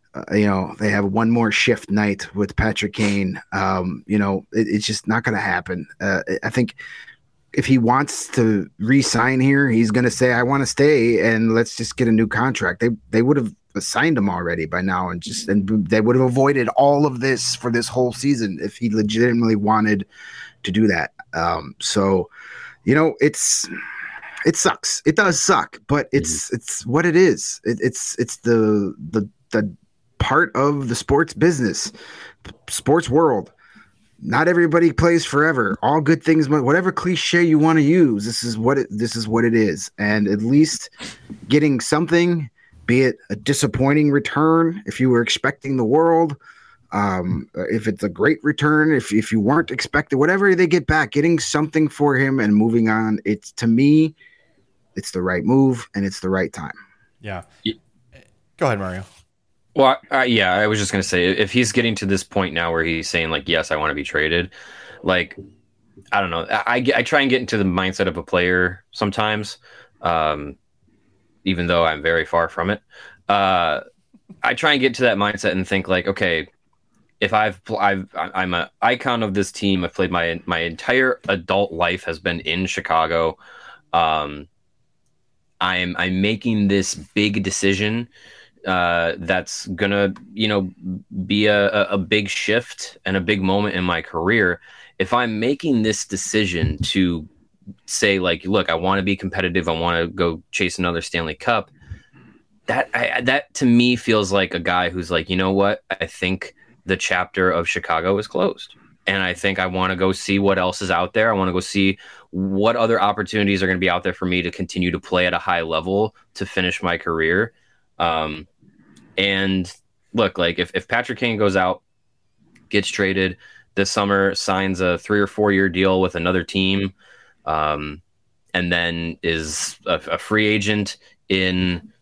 Uh, you know, they have one more shift night with Patrick Kane. Um, you know, it, it's just not going to happen. Uh, I think if he wants to re-sign here, he's going to say, I want to stay and let's just get a new contract. They they would have signed him already by now and just and they would have avoided all of this for this whole season if he legitimately wanted to do that. Um, so, you know, it's it sucks. It does suck, but it's mm-hmm. it's what it is. It, it's it's the the the part of the sports business, sports world. Not everybody plays forever. All good things, whatever cliche you want to use, this is what it this is what it is. And at least getting something, be it a disappointing return if you were expecting the world, um, if it's a great return, if if you weren't expecting, whatever they get back, getting something for him and moving on, it's to me, it's the right move and it's the right time. Yeah. Go ahead, Mario. Well, uh, yeah, I was just going to say, if he's getting to this point now where he's saying, like, yes, I want to be traded, like, I don't know. I, I try and get into the mindset of a player sometimes, um, even though I'm very far from it. Uh, I try and get to that mindset and think, like, okay, if I've, I've I'm an icon of this team. I've played my my entire adult life has been in Chicago. Um, I'm I'm making this big decision uh that's gonna you know be a, a big shift and a big moment in my career. If I'm making this decision to say, like, look, I want to be competitive, I want to go chase another Stanley Cup, that I, that to me feels like a guy who's like, you know what, I think the chapter of Chicago is closed and I think I want to go see what else is out there. I want to go see what other opportunities are going to be out there for me to continue to play at a high level to finish my career. Um, and look, like if, if Patrick Kane goes out, gets traded this summer, signs a three or four year deal with another team, um, and then is a, a free agent in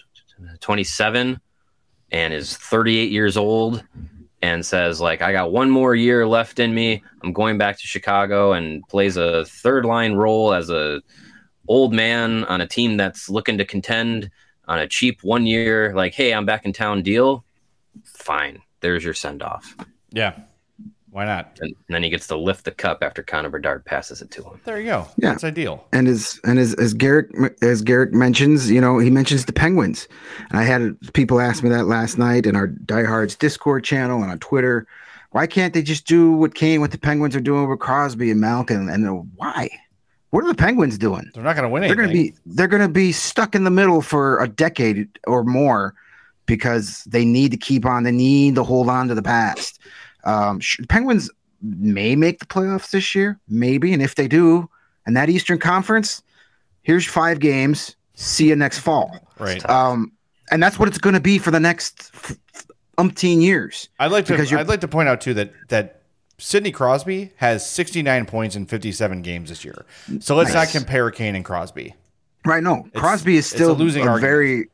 twenty-seven and is thirty-eight years old and says, like, I got one more year left in me. I'm going back to Chicago, and plays a third line role as a old man on a team that's looking to contend on a cheap one year, like, hey, I'm back in town deal. Fine. There's your send off. Yeah. Why not? And, and then he gets to lift the cup after Connor Bedard passes it to him. There you go. Yeah. That's ideal. And as and as as Garrick as Garrick mentions, you know, he mentions the Penguins. And I had people ask me that last night in our Diehards Discord channel and on Twitter. Why can't they just do what Kane, what the Penguins are doing with Crosby and Malkin? And, and why? What are the Penguins doing? They're not going to win anything. They're going to be they're going to be stuck in the middle for a decade or more because they need to keep on. They need to hold on to the past. Um, the Penguins may make the playoffs this year, maybe, and if they do, and that Eastern Conference, here's five games. See you next fall. Right. Um, and that's what it's going to be for the next f- umpteen years. I'd like to. I'd like to point out too that that. Sidney Crosby has sixty-nine points in fifty-seven games this year. So let's nice. not compare Kane and Crosby. Right, no. It's, Crosby is still a losing a very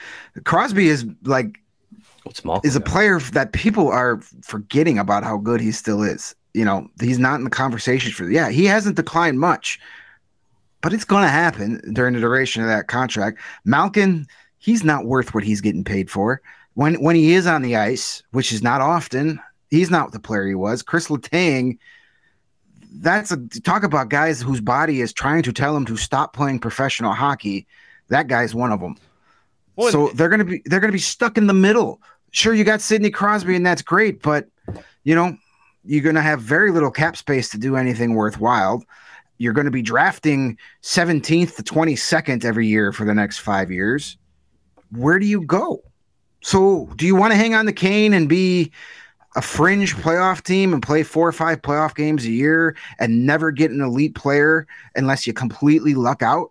Crosby is like is a player that people are forgetting about how good he still is. You know, he's not in the conversation for yeah, he hasn't declined much. But it's going to happen during the duration of that contract. Malkin, he's not worth what he's getting paid for. When when he is on the ice, which is not often, he's not the player he was. Chris Letang, that's a talk about guys whose body is trying to tell him to stop playing professional hockey. That guy's one of them. Well, so they're gonna be they're gonna be stuck in the middle. Sure, you got Sidney Crosby, and that's great, but you know you're gonna have very little cap space to do anything worthwhile. You're going to be drafting seventeenth to twenty-second every year for the next five years. Where do you go? So, do you want to hang on to Kane and be a fringe playoff team and play four or five playoff games a year and never get an elite player unless you completely luck out?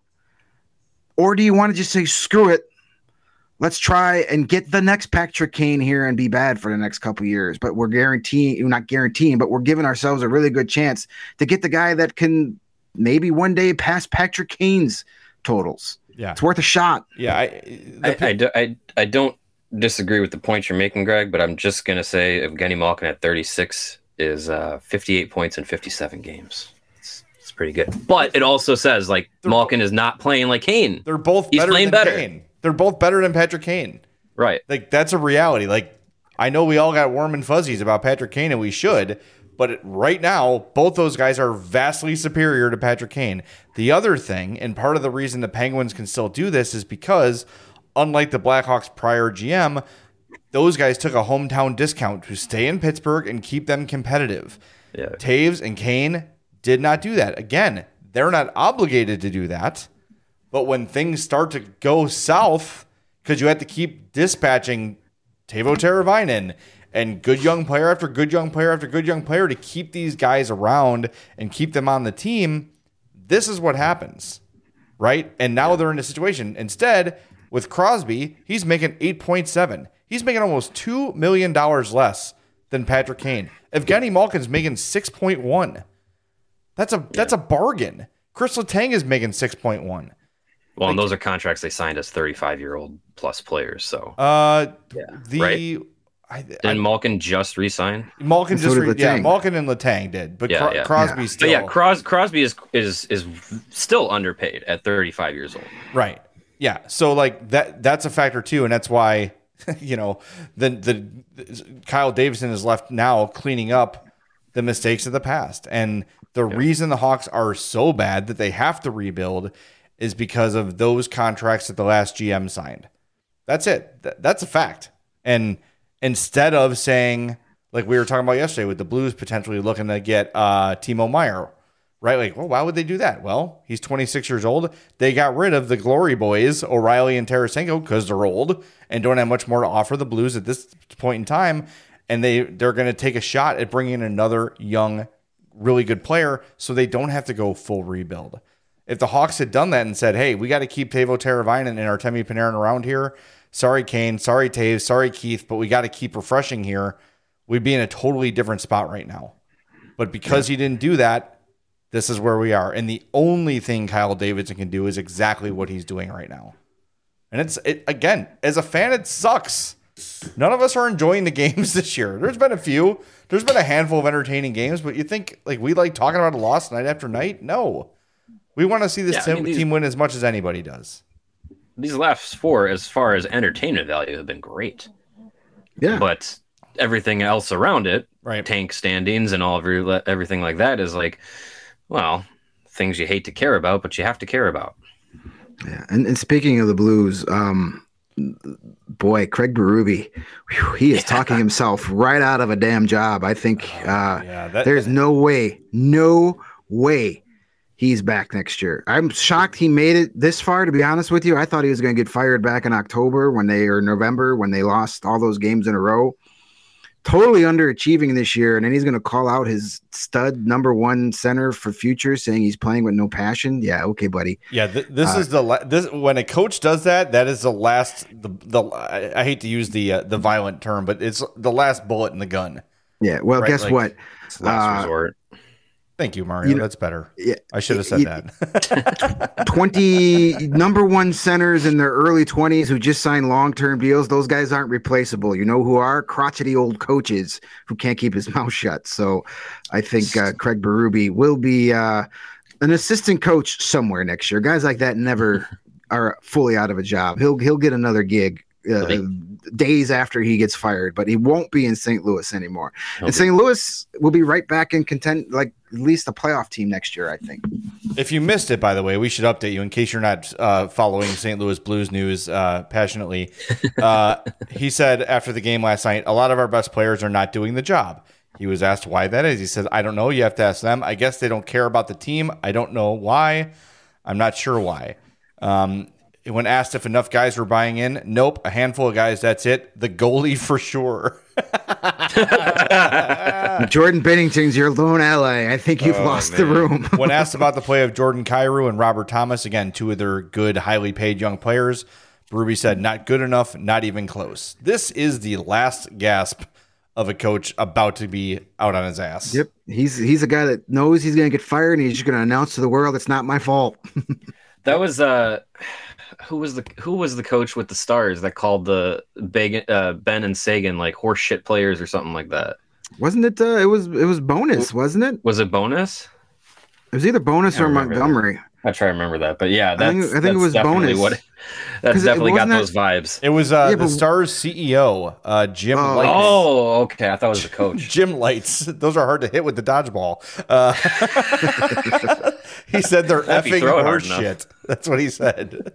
Or do you want to just say, screw it, let's try and get the next Patrick Kane here and be bad for the next couple of years, but we're guaranteeing, we're not guaranteeing, but we're giving ourselves a really good chance to get the guy that can maybe one day pass Patrick Kane's totals. Yeah. It's worth a shot. Yeah. I, I, I, do, I, I don't disagree with the point you're making, Greg, but I'm just going to say Evgeny Malkin at thirty-six is uh, fifty-eight points in fifty-seven games. It's, it's pretty good. But it also says, like, they're Malkin bo- is not playing like Kane. They're both He's better playing than better. Kane. They're both better than Patrick Kane. Right. Like, that's a reality. Like, I know we all got warm and fuzzies about Patrick Kane, and we should, but right now, both those guys are vastly superior to Patrick Kane. The other thing, and part of the reason the Penguins can still do this, is because, unlike the Blackhawks' prior G M, those guys took a hometown discount to stay in Pittsburgh and keep them competitive. Yeah. Taves and Kane did not do that. Again, they're not obligated to do that, but when things start to go south, because you have to keep dispatching Teuvo Teravainen and good young player after good young player after good young player to keep these guys around and keep them on the team, this is what happens, right? And now they're in a situation. Instead, with Crosby, he's making eight point seven. He's making almost two million dollars less than Patrick Kane. Evgeny Malkin's making six point one. That's a yeah. that's a bargain. Chris Letang is making six point one. Well, like, and those are contracts they signed as thirty-five-year-old plus players. So, uh, yeah. the right? I, Didn't I, Malkin just resign? Malkin so just re- yeah, Letang. Malkin and Letang did, but Yeah, Cro- yeah. Crosby Yeah. still But yeah, Cros- Crosby is is is still underpaid at thirty-five years old. right. Yeah, so like that that's a factor too, and that's why you know the the Kyle Davidson is left now cleaning up the mistakes of the past, and the Yeah. reason the Hawks are so bad that they have to rebuild is because of those contracts that the last G M signed. That's it. Th- that's a fact. And instead of saying, like we were talking about yesterday with the Blues potentially looking to get uh, Timo Meier, right? Like, well, why would they do that? Well, he's twenty-six years old. They got rid of the glory boys, O'Reilly and Tarasenko, because they're old and don't have much more to offer the Blues at this point in time. And they, they're going to take a shot at bringing in another young, really good player so they don't have to go full rebuild. If the Hawks had done that and said, hey, we got to keep Teuvo Teravainen and Artemi Panarin around here. Sorry, Kane. Sorry, Taves. Sorry, Keith. But we got to keep refreshing here. We'd be in a totally different spot right now. But because he didn't do that, this is where we are. And the only thing Kyle Davidson can do is exactly what he's doing right now. And it's, it again, as a fan, it sucks. None of us are enjoying the games this year. There's been a few. There's been a handful of entertaining games. But you think like we like talking about a loss night after night? No. We want to see this Yeah, I team, mean, these- team win as much as anybody does. These last four, as far as entertainment value, have been great. Yeah. But everything else around it, Right. tank standings and all of your, everything like that, is like, well, things you hate to care about, but you have to care about. Yeah, and, and speaking of the Blues, um, boy, Craig Berube, whew, he is Yeah. talking himself right out of a damn job. I think uh, yeah, that- there's no way, no way he's back next year. I'm shocked he made it this far, to be honest with you. I thought he was going to get fired back in October when they, or November, when they lost all those games in a row. Totally underachieving this year, and then he's going to call out his stud number one center for future, saying he's playing with no passion. Yeah, okay, buddy. Yeah, th- this Uh, is the la- this when a coach does that. That is the last. The the I, I hate to use the uh, the violent term, but it's the last bullet in the gun. Yeah, well, Right, guess like- what? It's last Uh, resort. Thank you, Mario. You know- That's better. Yeah, I should have said you- that. twenty number one centers in their early twenties who just signed long-term deals. Those guys aren't replaceable. You know who are? Crotchety old coaches who can't keep his mouth shut. So I think uh, Craig Berube will be uh, an assistant coach somewhere next year. Guys like that never are fully out of a job. He'll he'll get another gig uh, days after he gets fired, but he won't be in Saint Louis anymore. And Saint Louis will be right back in content, like at least a playoff team next year, I think. If you missed it, by the way, we should update you in case you're not uh, following Saint Louis Blues news uh, passionately. Uh, he said after the game last night, a lot of our best players are not doing the job. He was asked why that is. He says, I don't know. You have to ask them. I guess they don't care about the team. I don't know why. I'm not sure why. Um, when asked if enough guys were buying in, nope, a handful of guys, that's it. The goalie for sure. Jordan Bennington's your lone ally. I think you've Oh, lost the man. room. When asked about the play of Jordan Kyrou and Robert Thomas, again, two of their good, highly paid young players, Berube said, not good enough, not even close. This is the last gasp of a coach about to be out on his ass. Yep, he's he's a guy that knows he's going to get fired, and he's just going to announce to the world it's not my fault. That was uh, who was the who was the coach with the Stars that called the Beg, uh, Ben and Sagan like horse shit players or something like that? Wasn't it? Uh, it was it was Bonus, wasn't it? Was it Bonus? It was either Bonus I or remember that. Montgomery. I try to remember that, but yeah, I that's think, I think that's it was definitely bonus. what. That's 'Cause it definitely got wasn't those vibes. It was uh, Yeah, the but- Stars C E O, uh, Jim Oh. Lights. Oh, okay. I thought it was the coach. Jim Lights. Those are hard to hit with the dodgeball. Uh, he said they're If you effing throw it hard horse enough. shit. That's what he said.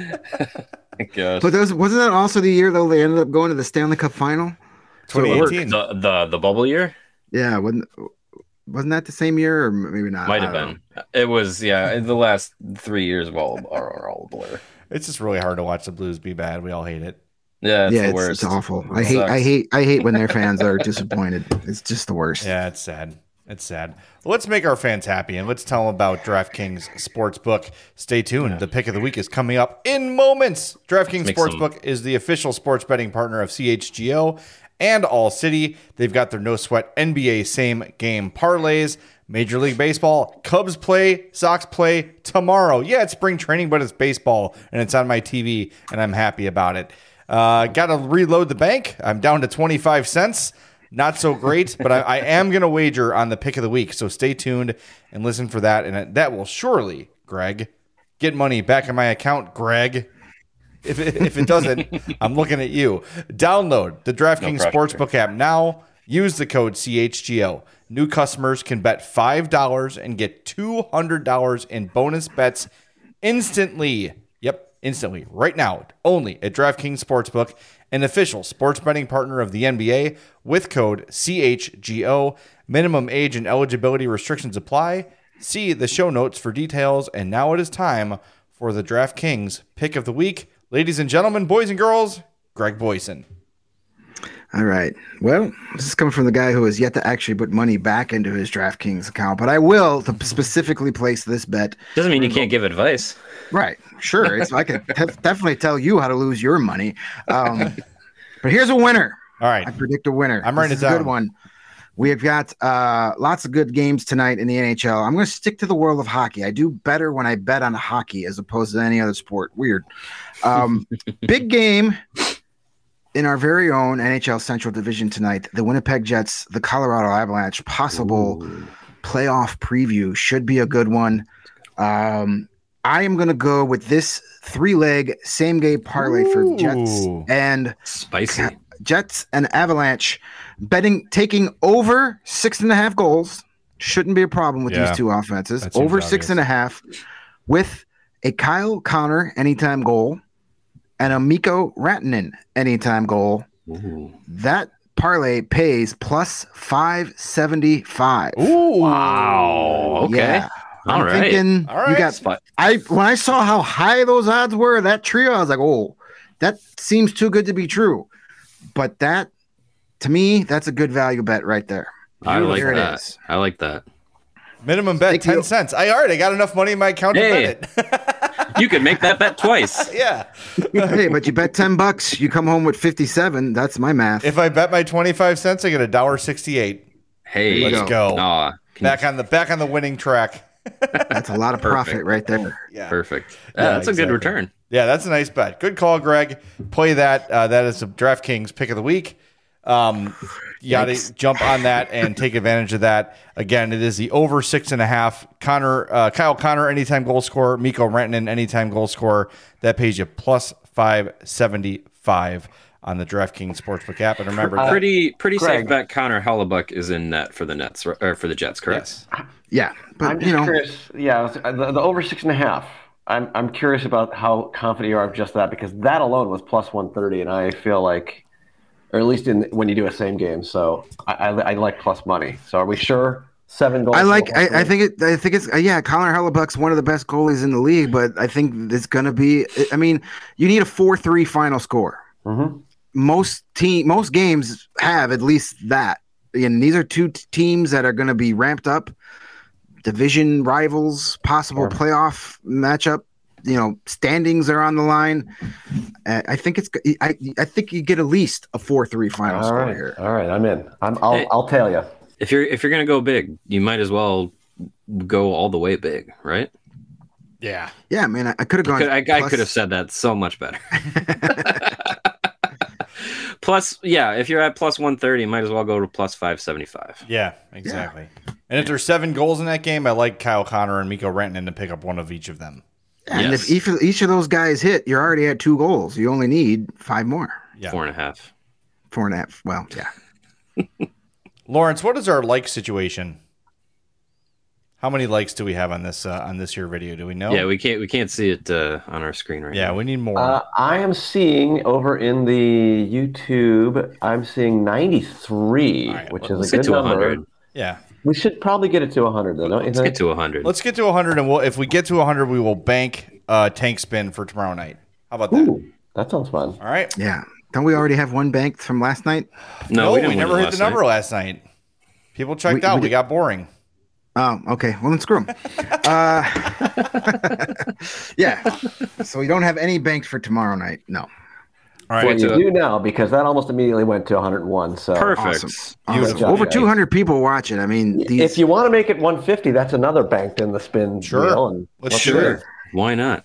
Gosh. But those, wasn't that also the year though they ended up going to the Stanley Cup final? So it worked. twenty eighteen. the the the bubble year Yeah, wasn't wasn't that the same year or maybe not? might I have don't been. It was yeah. The last three years of all are, are all a blur. It's just really hard to watch the Blues be bad. We all hate it. Yeah, it's yeah, the it's, worst. it's awful. It I hate, I sucks. hate, I hate when their fans are disappointed. It's just the worst. Yeah, it's sad. It's sad. Well, let's make our fans happy and let's tell them about DraftKings Sportsbook. Stay tuned. The pick of the week is coming up in moments. DraftKings Make some- Sportsbook is the official sports betting partner of C H G O and All City. They've got their no sweat N B A same game parlays. Major League Baseball, Cubs play, Sox play tomorrow. Yeah, it's spring training, but it's baseball, and it's on my T V, and I'm happy about it. Uh, Got to reload the bank. I'm down to twenty-five cents. Not so great, but I, I am going to wager on the pick of the week. So stay tuned and listen for that. And that will surely, Greg, get money back in my account, Greg. If it, if it doesn't, I'm looking at you. Download the DraftKings No pressure. Sportsbook app now. Use the code C H G O. New customers can bet five dollars and get two hundred dollars in bonus bets instantly. Yep, instantly. Right now, only at DraftKings Sportsbook, an official sports betting partner of the N B A with code C H G O. Minimum age and eligibility restrictions apply. See the show notes for details. And now it is time for the DraftKings pick of the week. Ladies and gentlemen, boys and girls, Greg Boyson. All right. Well, this is coming from the guy who has yet to actually put money back into his DraftKings account, but I will to specifically place this bet. Doesn't mean you can't give advice. Right. Sure. It's I can def- definitely tell you how to lose your money. Um, but here's a winner. All right. I predict a winner. I'm writing This it is a down. good one. We have got uh, lots of good games tonight in the N H L. I'm going to stick to the world of hockey. I do better when I bet on hockey as opposed to any other sport. Weird. Um, big game in our very own N H L Central Division tonight. The Winnipeg Jets, the Colorado Avalanche, possible Ooh. playoff preview should be a good one. Um, I am going to go with this three-leg same-game parlay for the Jets Ooh. and Spicy. Jets and Avalanche betting taking over six and a half goals shouldn't be a problem with Yeah. these two offenses. That seems Over obvious. six and a half with a Kyle Connor anytime goal and a Mikko Rantanen anytime goal. Ooh. That parlay pays plus five seventy-five. Ooh. Wow. Okay. Yeah. All I'm right. thinking All right. you got Spot. I when I saw how high those odds were, that trio, I was like, oh, that seems too good to be true. But that, to me, that's a good value bet right there. I like There it that. is. I like that. Minimum bet Thank ten you. cents. I already got enough money in my account Hey. to bet it. You could make that bet twice. Yeah. Hey, but you bet ten bucks, you come home with fifty-seven. That's my math. If I bet my twenty-five cents, I get a dollar sixty-eight. Hey, There you Let's go. Aw, can Back you- on the back on the winning track. That's a lot of profit Perfect. right there. Yeah. Perfect. Yeah, Yeah, that's a exactly. good return. Yeah, that's a nice bet. Good call, Greg. Play that. Uh, that is the DraftKings pick of the week. Um, you got Thanks. to jump on that and take advantage of that. Again, it is the over six and a half. Connor, uh, Kyle Connor, anytime goal scorer. Mikko Rantanen, anytime goal scorer. That pays you plus five seventy-five on the DraftKings Sportsbook app. And remember, that, Pretty pretty Greg. safe bet. Connor Hellebuck is in net for the Nets or or for the Jets, correct? yes. Yeah, I'm but just you know, curious. Yeah, the, the over six and a half. I'm I'm curious about how confident you are of just that because that alone was plus one thirty, and I feel like, or at least in when you do a same game. So I, I, I like plus money. So are we sure seven goals? I like. I, I think it. I think it's. Uh, yeah, Connor Hellebuck's one of the best goalies in the league, but I think it's going to be. I mean, you need a four three final score. Mm-hmm. Most team, most games have at least that. And these are two t- teams that are going to be ramped up, division rivals, possible Sure. playoff matchup. You know, standings are on the line. Uh, I think it's. I I think you get at least a four three final All score right, here. all right. I'm in. I'm, I'll Hey. I'll tell you. If you're if you're gonna go big, you might as well go all the way big, right? Yeah. Yeah, man, I, I could have gone. Could, I, I plus- could have said that so much better. Plus, yeah, if you're at plus one thirty, you might as well go to plus five seventy-five. Yeah, exactly. And if there's seven goals in that game, I like Kyle Connor and Mikko Rantanen to pick up one of each of them. And Yes. if each of, each of those guys hit, you're already at two goals. You only need five more. Yeah. Four and a half. Four and a half. Well, yeah. Lawrence, what is our like situation? How many likes do we have on this uh, on this year video? Do we know? Yeah, we can't we can't see it uh, on our screen right Yeah, now. we need more. Uh, I am seeing over in the YouTube, I'm seeing ninety-three, All right, which let's is a get good to number. one hundred. yeah. We should probably get it to one hundred, though, don't you Let's think? get to one hundred. Let's get to one hundred, and we'll if we get to one hundred, we will bank uh, tank spin for tomorrow night. How about that? Ooh, that sounds fun. All right. Yeah. Don't we already have one banked from last night? No, No, we, we, didn't win never it hit last the number night. last night. People checked We- out. we We, did- got boring. Oh, okay. Well, then screw them. uh, yeah. So we don't have any banked for tomorrow night. No. All Well, right. to you it. do now because that almost immediately went to one hundred one. So Perfect. Awesome. Beautiful. Awesome. Over Yeah. two hundred people watching. I mean, these, if you want to make it one fifty, that's another banked in the spin Sure. wheel. And Let's let's do do it. it. Why not?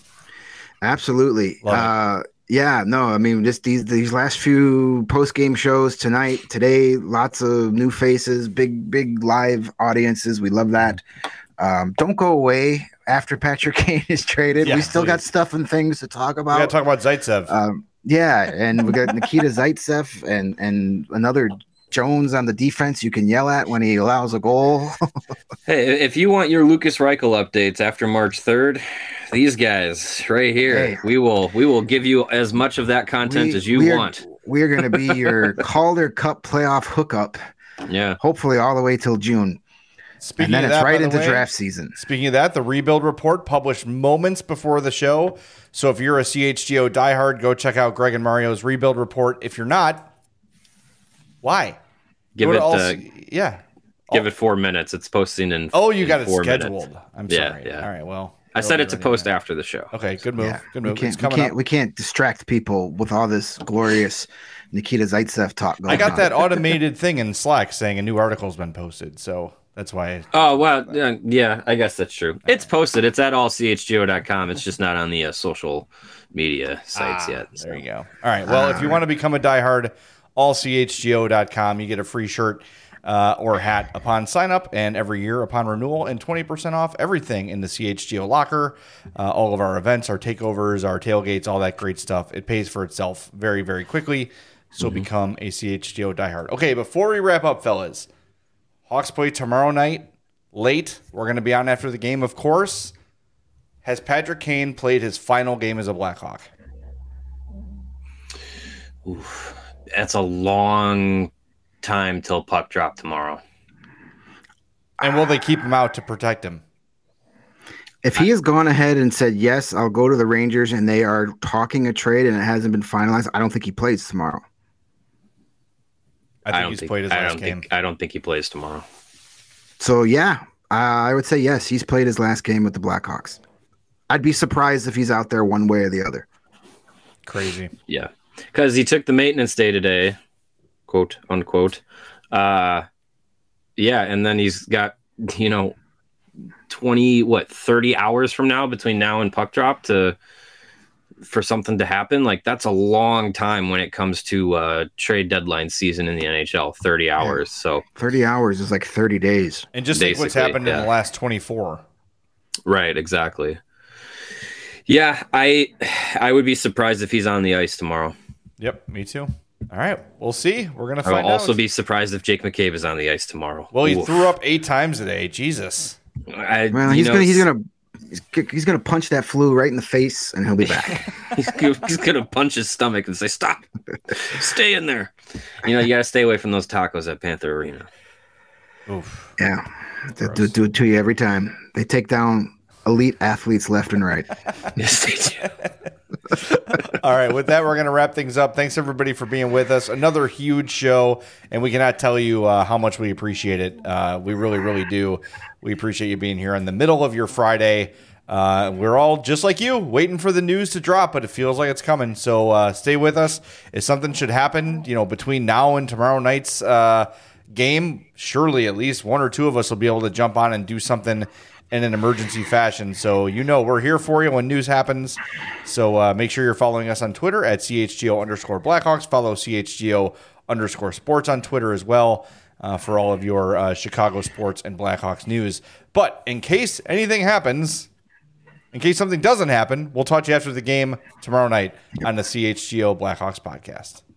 absolutely. Love it. Uh, yeah, no, I mean, just these these last few post game shows tonight, today, lots of new faces, big big live audiences. We love that. Um, don't go away after Patrick Kane is traded. Yeah, we still got please. stuff and things to talk We got to about. talk about Zaitsev. Um, yeah, and we got Nikita Zaitsev and and another Jones on the defense you can yell at when he allows a goal. Hey, if you want your Lucas Reichel updates after March third, these guys right here, Hey. we will we will give you as much of that content We- as you we are- want. We're going to be your Calder Cup playoff hookup, Yeah. hopefully all the way till June. Speaking And then of it's that, by right the into way, draft season. Speaking of that, the rebuild report published moments before the show. So if you're a C H G O diehard, go check out Greg and Mario's rebuild report. If you're not, why? Give Go to it all- uh, yeah. give it four minutes. It's posting in Oh, you in got it four scheduled. minutes. I'm Yeah, sorry. yeah. All right. Well, I said it'll it to be post running after the show. now. Okay. Good move. Yeah, Good we move. It's can't, we coming can't, up. we can't distract people with all this glorious Nikita Zaitsev talk going I got on. that automated thing in Slack saying a new article's been posted. So that's why. Oh, well, yeah, yeah, I guess that's true. It's posted. It's at all c h g o dot com. It's just not on the uh, social media sites Ah, yet. There you go. All right. Well, if you want to become a diehard, all c h g o dot com, you get a free shirt uh, or hat upon sign up, and every year upon renewal, and twenty percent off everything in the C H G O locker. Uh, all of our events, our takeovers, our tailgates, all that great stuff. It pays for itself very, very quickly. So become a C H G O diehard. Okay, before we wrap up, fellas, Hawks play tomorrow night late. We're going to be on after the game, of course. Has Patrick Kane played his final game as a Blackhawk? Oof. That's a long time till puck drop tomorrow. And will they keep him out to protect him? If he has gone ahead and said, yes, I'll go to the Rangers and they are talking a trade and it hasn't been finalized, I don't think he plays tomorrow. I think don't he's think, played his I last don't game. think I don't think he plays tomorrow. So, yeah, uh, I would say yes, he's played his last game with the Blackhawks. I'd be surprised if he's out there one way or the other. Crazy. Yeah, because he took the maintenance day today, quote unquote. Uh, yeah, and then he's got you know twenty what thirty hours from now between now and puck drop to for something to happen. Like that's a long time when it comes to uh, trade deadline season in the N H L. Thirty hours. So thirty hours is like thirty days. And just think what's Basically, happened in yeah. the last twenty-four. right, exactly. Yeah, I I would be surprised if he's on the ice tomorrow. Yep, me too. All right, we'll see. We're gonna I will find also out. be surprised if Jake McCabe is on the ice tomorrow. well, he Oof. threw up eight times today. Jesus. I, Well, you he's know, gonna he's gonna he's, g- he's gonna punch that flu right in the face and he'll be back. he's, gonna- he's gonna punch his stomach and say, "Stop, stay in there." You know, you gotta stay away from those tacos at Panther Arena. Oof. Yeah, they do, do it to you every time. They take down elite athletes left and right. Yes, they do. All right, with that, we're going to wrap things up. Thanks, everybody, for being with us. Another huge show, and we cannot tell you uh, how much we appreciate it. Uh, we really, really do. We appreciate you being here in the middle of your Friday. Uh, we're all just like you, waiting for the news to drop, but it feels like it's coming. So uh, stay with us. If something should happen, you know, between now and tomorrow night's uh, game, surely at least one or two of us will be able to jump on and do something in an emergency fashion. So, you know, we're here for you when news happens. So uh, make sure you're following us on Twitter at C H G O underscore Blackhawks. Follow C H G O underscore sports on Twitter as well. uh, for all of your uh, Chicago sports and Blackhawks news. But in case anything happens, in case something doesn't happen, we'll talk to you after the game tomorrow night on the C H G O Blackhawks podcast.